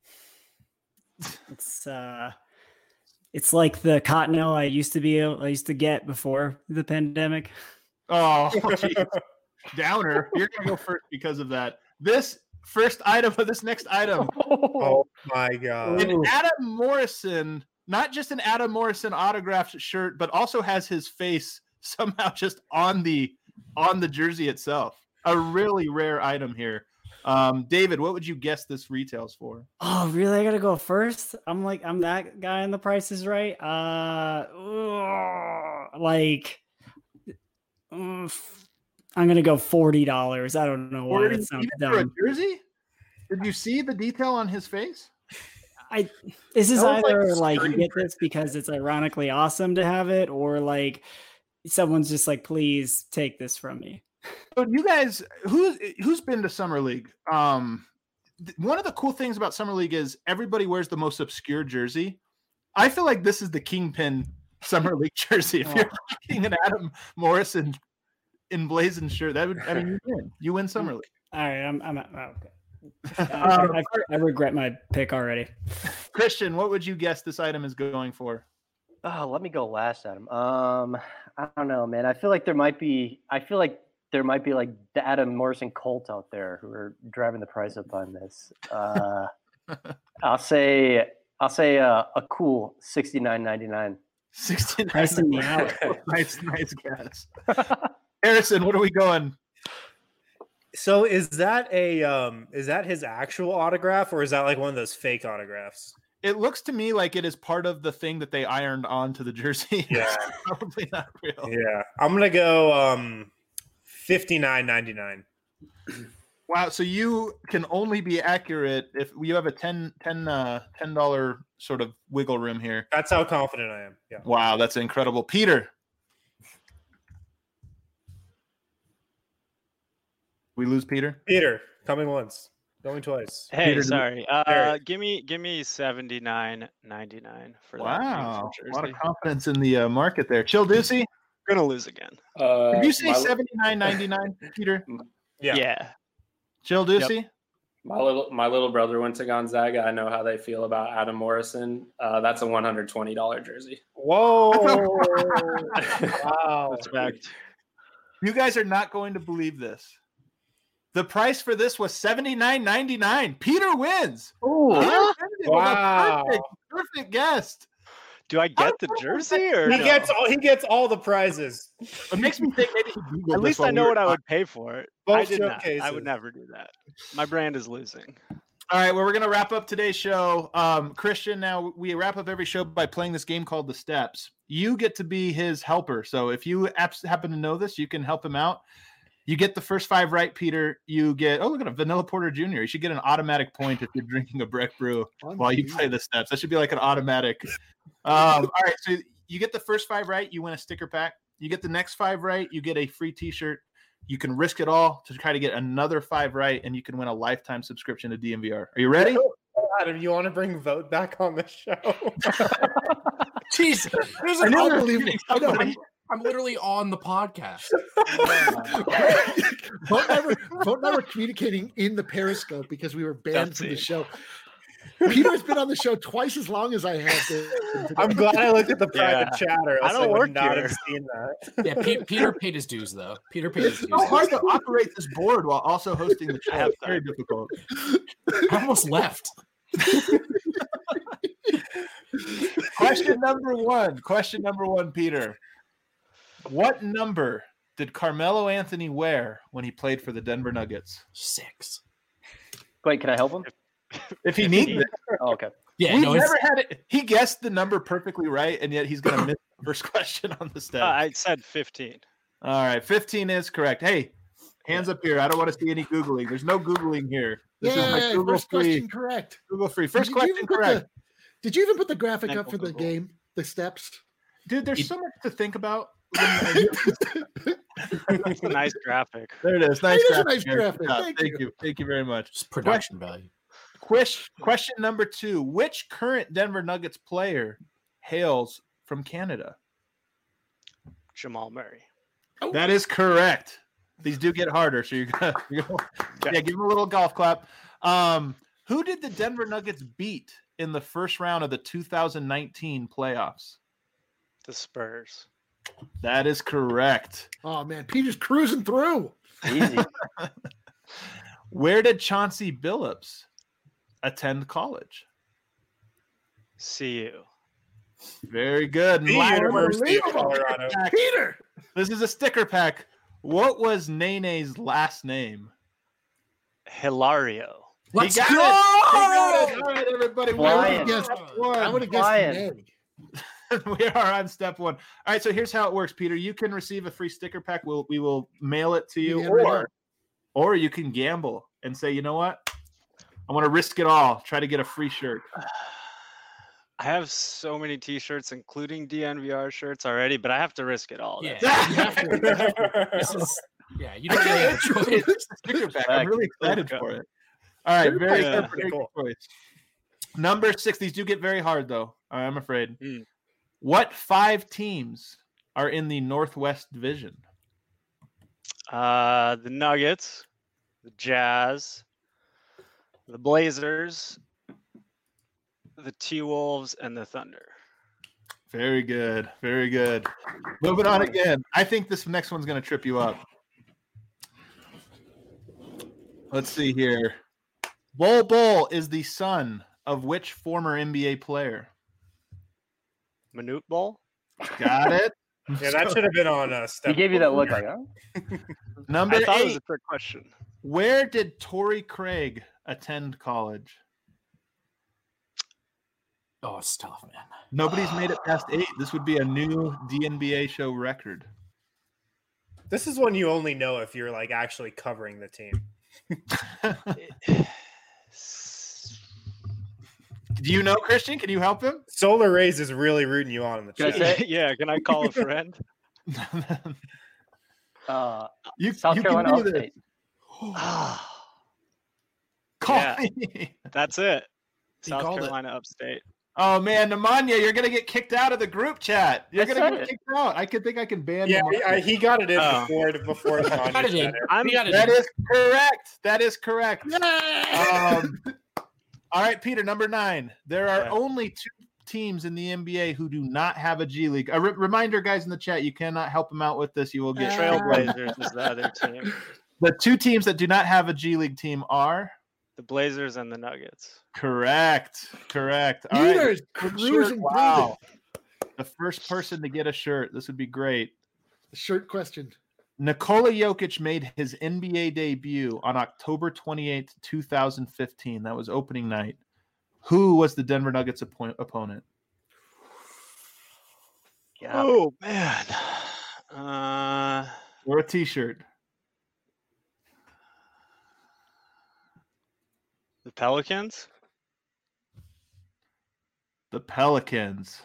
Speaker 9: It's uh, it's like the Cottonelle I used to be able, I used to get before the pandemic.
Speaker 2: Oh, geez. Downer. You're gonna go first because of that. This first item of this next item,
Speaker 1: Oh my god.
Speaker 2: an Adam Morrison, not just an Adam Morrison autographed shirt, but also has his face somehow just on the on the jersey itself. A really rare item here. Um, David, what would you guess this retails for?
Speaker 9: Oh, really? I gotta go first. I'm like I'm that guy in The Price is Right. Uh, ugh, like. uh, I'm gonna go forty dollars. I don't know why
Speaker 2: Forty-
Speaker 9: that sounds
Speaker 2: even for a
Speaker 9: dumb.
Speaker 2: jersey? Did you see the detail on his face?
Speaker 9: I this is
Speaker 2: That was like
Speaker 9: either like, you
Speaker 2: screen
Speaker 9: get this because it's ironically awesome to have it, or like someone's just like, please take this from me.
Speaker 2: So you guys, who who's been to Summer League? Um, th- one of the cool things about Summer League is everybody wears the most obscure jersey. I feel like this is the Kingpin Summer League jersey. If you're rocking an Adam Morrison emblazoned shirt, that would I mean you win. You win Summer League.
Speaker 9: All right, I'm I'm oh, okay.
Speaker 2: Um,
Speaker 9: I, I, I regret my pick already.
Speaker 2: Christian, what would you guess this item is going for?
Speaker 5: Oh, let me go last, Adam. Um, I don't know, man. I feel like there might be. I feel like there might be like the Adam Morrison cult out there who are driving the price up on this. Uh, I'll say. I'll say uh, a cool sixty-nine ninety-nine.
Speaker 2: sixty-nine.
Speaker 9: Pricing me out.
Speaker 2: nice, nice guess. Harrison, what are we going?
Speaker 1: So is that a um is that his actual autograph or is that like one of those fake autographs?
Speaker 2: It looks to me like it is part of the thing that they ironed onto the jersey.
Speaker 1: Yeah.
Speaker 2: Probably not real.
Speaker 1: Yeah. I'm gonna go um fifty-nine ninety-nine.
Speaker 2: Wow. So you can only be accurate if you have a ten, ten, uh, ten dollar sort of wiggle room here.
Speaker 1: That's how confident I am. Yeah.
Speaker 2: Wow, that's incredible. Peter. We lose Peter.
Speaker 1: Peter, coming once, going twice.
Speaker 6: Hey,
Speaker 2: Peter, do-
Speaker 6: sorry. Uh,
Speaker 1: Eric.
Speaker 6: give me give me seventy nine ninety nine for that
Speaker 2: Wow,
Speaker 6: beautiful
Speaker 2: a lot of
Speaker 6: jersey.
Speaker 2: confidence in the uh, market there. Chill Ducey.
Speaker 6: Gonna lose again.
Speaker 7: Uh,
Speaker 2: Did you say
Speaker 7: my,
Speaker 2: seventy-nine ninety-nine, Peter?
Speaker 1: Yeah.
Speaker 6: Yeah.
Speaker 2: Chill Ducey.
Speaker 7: my little my little brother went to Gonzaga. I know how they feel about Adam Morrison. Uh, that's a one hundred twenty dollar jersey.
Speaker 1: Whoa. Wow.
Speaker 6: Respect.
Speaker 2: You guys are not going to believe this. The price for this was seventy-nine ninety-nine. Peter wins.
Speaker 5: Ooh.
Speaker 2: Peter wins it with a
Speaker 1: Wow.
Speaker 2: Perfect, perfect guest.
Speaker 6: Do I get the jersey or
Speaker 1: He
Speaker 6: no?
Speaker 1: gets all he gets all the prizes.
Speaker 2: It makes me think maybe he Googled
Speaker 6: At
Speaker 2: this
Speaker 6: least
Speaker 2: while
Speaker 6: I
Speaker 2: we
Speaker 6: know
Speaker 2: were
Speaker 6: what I
Speaker 2: talking.
Speaker 6: would pay for it. I
Speaker 1: Both
Speaker 6: did not. I
Speaker 1: showcases.
Speaker 6: would never do that. My brand is losing.
Speaker 2: All right, well, we're going to wrap up today's show. Um, Christian, now we wrap up every show by playing this game called The Steps. You get to be his helper. So if you abs- happen to know this, you can help him out. You get the first five right, Peter. You get, oh, look at a Vanilla Porter Junior You should get an automatic point if you're drinking a Breck Brew while you play The Steps. That should be like an automatic. Um, all right, so you get the first five right, you win a sticker pack. You get the next five right, you get a free T-shirt. You can risk it all to try to get another five right, and you can win a lifetime subscription to D M V R. Are you ready?
Speaker 1: Adam, you want to bring Vote back on the show?
Speaker 4: Jeez, there's
Speaker 2: I
Speaker 4: an
Speaker 2: know.
Speaker 4: unbelievable. I know, I'm, I'm literally on the podcast.
Speaker 3: Vote never, Vote never communicating in the Periscope because we were banned
Speaker 6: That's
Speaker 3: from the
Speaker 6: it.
Speaker 3: show. Peter's been on the show twice as long as I have. To,
Speaker 1: I'm glad I looked at the private
Speaker 6: Yeah.
Speaker 1: chatter.
Speaker 6: I
Speaker 1: else
Speaker 6: don't
Speaker 1: would
Speaker 6: work
Speaker 1: not
Speaker 6: here.
Speaker 1: have seen that.
Speaker 4: Yeah, Pe- Peter paid his dues though. Peter paid his dues.
Speaker 2: It's so hard to operate this board while also hosting the show.
Speaker 6: have
Speaker 2: It's very difficult.
Speaker 4: I almost left.
Speaker 2: Question number one. Question number one, Peter. What number did Carmelo Anthony wear when he played for the Denver Nuggets?
Speaker 4: Six.
Speaker 5: Wait, can I help him?
Speaker 2: If he needs it.
Speaker 5: Oh, okay.
Speaker 4: Yeah,
Speaker 2: We've
Speaker 4: no, it's-
Speaker 2: never had it. He guessed the number perfectly right, and yet he's going to miss the first question on the step.
Speaker 6: Uh, I said fifteen.
Speaker 2: All right, fifteen is correct. Hey, hands up here. I don't want to see any Googling. There's no Googling here. This is
Speaker 3: Yeah,
Speaker 2: my Google
Speaker 3: first
Speaker 2: free.
Speaker 3: question correct.
Speaker 2: Google free. First
Speaker 3: Did you
Speaker 2: question
Speaker 3: even put
Speaker 2: correct.
Speaker 3: the- did you even put the graphic up
Speaker 6: Mental
Speaker 3: for the
Speaker 6: Google.
Speaker 3: game? The steps?
Speaker 2: Dude, there's so much to think about.
Speaker 6: That's a nice graphic.
Speaker 2: There it is. Nice
Speaker 3: It is a
Speaker 2: graphic.
Speaker 3: nice
Speaker 2: Eric.
Speaker 3: graphic.
Speaker 2: Good job.
Speaker 3: Thank
Speaker 2: Thank
Speaker 3: you.
Speaker 2: you. Thank you very much.
Speaker 4: Just production value.
Speaker 2: Quish, question number two. Which current Denver Nuggets player hails from Canada?
Speaker 6: Jamal Murray.
Speaker 2: That is correct. These do get harder, so you're gonna, you're gonna yeah, give him a little golf clap. Um, who did the Denver Nuggets beat in the first round of the two thousand nineteen playoffs?
Speaker 6: The Spurs.
Speaker 2: That is correct.
Speaker 3: Oh man, Peter's cruising through.
Speaker 5: Easy.
Speaker 2: Where did Chauncey Billups attend college?
Speaker 6: C U.
Speaker 2: Very good.
Speaker 1: The
Speaker 2: Last
Speaker 1: University of
Speaker 2: one.
Speaker 1: Colorado.
Speaker 3: Peter.
Speaker 2: This is a sticker pack. What was Nene's last name?
Speaker 6: Hilario.
Speaker 4: Let's
Speaker 2: He got
Speaker 4: go!
Speaker 2: it. He got it. All right, everybody. We
Speaker 5: Flying.
Speaker 2: are guessed one.
Speaker 3: I would have guessed
Speaker 5: Flying.
Speaker 3: Neg.
Speaker 2: We are on step one. All right, so here's how it works, Peter. You can receive a free sticker pack. We'll we will mail it to you,
Speaker 3: Yeah, right
Speaker 2: or
Speaker 3: on.
Speaker 2: or you can gamble and say, you know what, I want to risk it all. Try to get a free shirt.
Speaker 6: I have so many T-shirts, including D N V R shirts already, but I have to risk it all.
Speaker 4: Yeah,
Speaker 6: That's-
Speaker 4: you have to. You have to. This is, yeah, you don't really have a choice.
Speaker 2: It's a sticker pack. I'm really excited for it. All right, very,
Speaker 6: Yeah.
Speaker 2: good, very good choice. Number six. These do get very hard, though. I'm afraid.
Speaker 6: Mm.
Speaker 2: What five teams are in the Northwest Division?
Speaker 6: Uh, the Nuggets, the Jazz, the Blazers, the T-Wolves, and the Thunder.
Speaker 2: Very good. Very good. Moving on again. I think this next one's going to trip you up. Let's see here. Bol Bol is the son of which former N B A player?
Speaker 6: Manute Bol?
Speaker 2: Got it.
Speaker 1: Yeah, that should have been on uh, step.
Speaker 5: He gave you that look like, huh?
Speaker 2: Number
Speaker 6: I thought it was
Speaker 2: eight.
Speaker 6: a trick question.
Speaker 2: Where did Torrey Craig attend college?
Speaker 4: Oh, it's tough, man.
Speaker 2: Nobody's made it past eight. This would be a new D N B A show record.
Speaker 1: This is one you only know if you're like actually covering the team.
Speaker 2: Do you know Christian? Can you help him?
Speaker 1: Solar Rays is really rooting you on in the
Speaker 5: Can I
Speaker 1: chat.
Speaker 5: say-
Speaker 6: Yeah, can I call a friend?
Speaker 5: Uh,
Speaker 2: you,
Speaker 5: South
Speaker 2: you
Speaker 5: Carolina
Speaker 2: can do this.
Speaker 5: Upstate.
Speaker 2: Call
Speaker 6: Yeah.
Speaker 2: me.
Speaker 6: That's it.
Speaker 4: He
Speaker 6: South
Speaker 4: called it.
Speaker 6: Carolina Upstate.
Speaker 2: Oh man, Nemanja, you're gonna get kicked out of the group chat. You're
Speaker 5: I
Speaker 2: gonna
Speaker 5: said
Speaker 2: get
Speaker 5: it.
Speaker 2: kicked out. I could think I can ban
Speaker 1: Yeah,
Speaker 2: Nemanja.
Speaker 1: he, I, he got it in
Speaker 6: Oh.
Speaker 1: before before the
Speaker 4: Got it in.
Speaker 6: I'm-
Speaker 4: We got it
Speaker 2: That
Speaker 4: in.
Speaker 2: is correct. That is correct. Um, all right, Peter, number nine. There are
Speaker 6: Yeah.
Speaker 2: only two teams in the N B A who do not have a G League. A re- reminder, guys in the chat, you cannot help them out with this. You will get
Speaker 6: Trailblazers is the other team.
Speaker 2: The two teams that do not have a G League team are
Speaker 6: The Blazers and the Nuggets.
Speaker 2: correct. Correct. All right.
Speaker 3: Peter's
Speaker 2: Shirt.
Speaker 3: cruising
Speaker 2: Wow. The first person to get a shirt. This would be great.
Speaker 3: through the shirt question.
Speaker 2: Nikola Jokic made his N B A debut on October twenty-eighth, twenty fifteen. That was opening night. Who was the Denver Nuggets oppo- opponent?
Speaker 5: Yeah.
Speaker 6: Oh man. Uh,
Speaker 2: Or a t-shirt?
Speaker 6: the Pelicans.
Speaker 2: The Pelicans.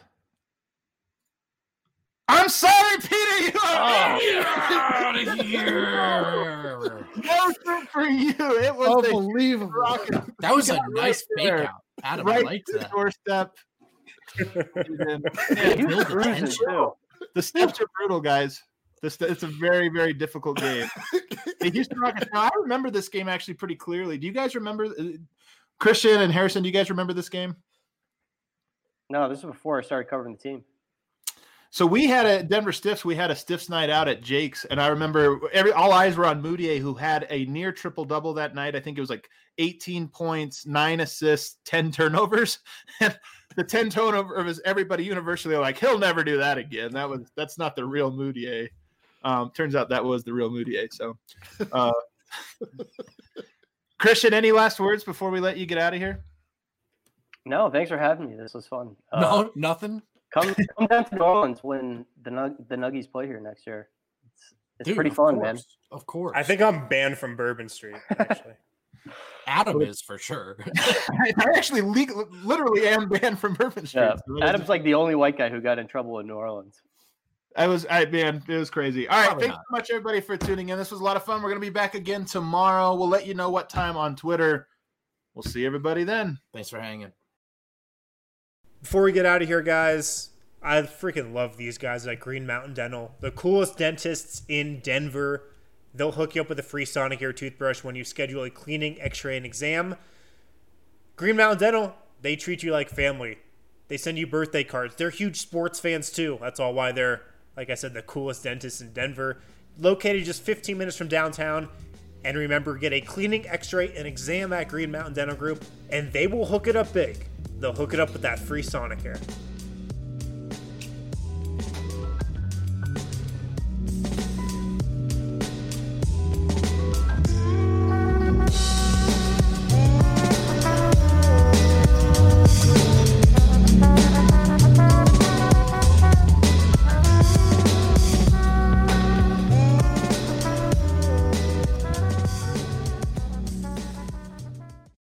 Speaker 2: I'm sorry, Peter. You are
Speaker 4: Out of here.
Speaker 2: no good for you. It was the
Speaker 3: Unbelievable.
Speaker 2: Rockets
Speaker 4: That was a
Speaker 2: got
Speaker 4: nice
Speaker 2: right
Speaker 4: fake
Speaker 2: there.
Speaker 4: out. Adam,
Speaker 2: right
Speaker 4: I liked
Speaker 2: to the
Speaker 4: that.
Speaker 2: doorstep.
Speaker 4: Yeah,
Speaker 5: He was
Speaker 4: build
Speaker 5: cruising
Speaker 4: attention.
Speaker 5: too.
Speaker 2: The steps are brutal, guys. This it's a very, very difficult game. The Houston Rockets. Now, I remember this game actually pretty clearly. Do you guys remember? uh, Christian and Harrison, do you guys remember this game?
Speaker 5: No, this was before I started covering the team.
Speaker 2: So we had a Denver Stiffs. We had a Stiffs night out at Jake's, and I remember every all eyes were on Moutier, who had a near triple double that night. I think it was like eighteen points, nine assists, ten turnovers. And the ten turnovers, everybody universally like, he'll never do that again. That was that's not the real Moutier. Um, turns out that was the real Moutier. So, uh, Christian, any last words before we let you get out of here?
Speaker 5: No, thanks for having me. This was fun. Uh,
Speaker 4: no, nothing.
Speaker 5: Come come down to New Orleans when the Nug- the Nuggies play here next year. It's it's
Speaker 4: Dude,
Speaker 5: pretty
Speaker 4: of
Speaker 5: fun,
Speaker 4: course,
Speaker 5: man.
Speaker 4: Of course.
Speaker 1: I think I'm banned from Bourbon Street, actually.
Speaker 4: Adam is for sure.
Speaker 2: I actually legal, literally am banned from Bourbon Street.
Speaker 5: Yeah.
Speaker 2: So
Speaker 5: Adam's like the only white guy who got in trouble in New Orleans.
Speaker 2: I was, I man, it was crazy. All right,
Speaker 4: Probably
Speaker 2: thanks
Speaker 4: not.
Speaker 2: so much, everybody, for tuning in. This was a lot of fun. We're gonna be back again tomorrow. We'll let you know what time on Twitter. We'll see everybody then.
Speaker 4: Thanks for hanging.
Speaker 1: Before we get out of here, guys, I freaking love these guys at Green Mountain Dental. The coolest dentists in Denver. They'll hook you up with a free Sonicare toothbrush when you schedule a cleaning, x-ray, and exam. Green Mountain Dental, they treat you like family. They send you birthday cards. They're huge sports fans, too. That's all why they're, like I said, the coolest dentists in Denver. Located just fifteen minutes from downtown. And remember, get a cleaning, x-ray, and exam at Green Mountain Dental Group, and they will hook it up big. They'll hook it up with that free Sonicare.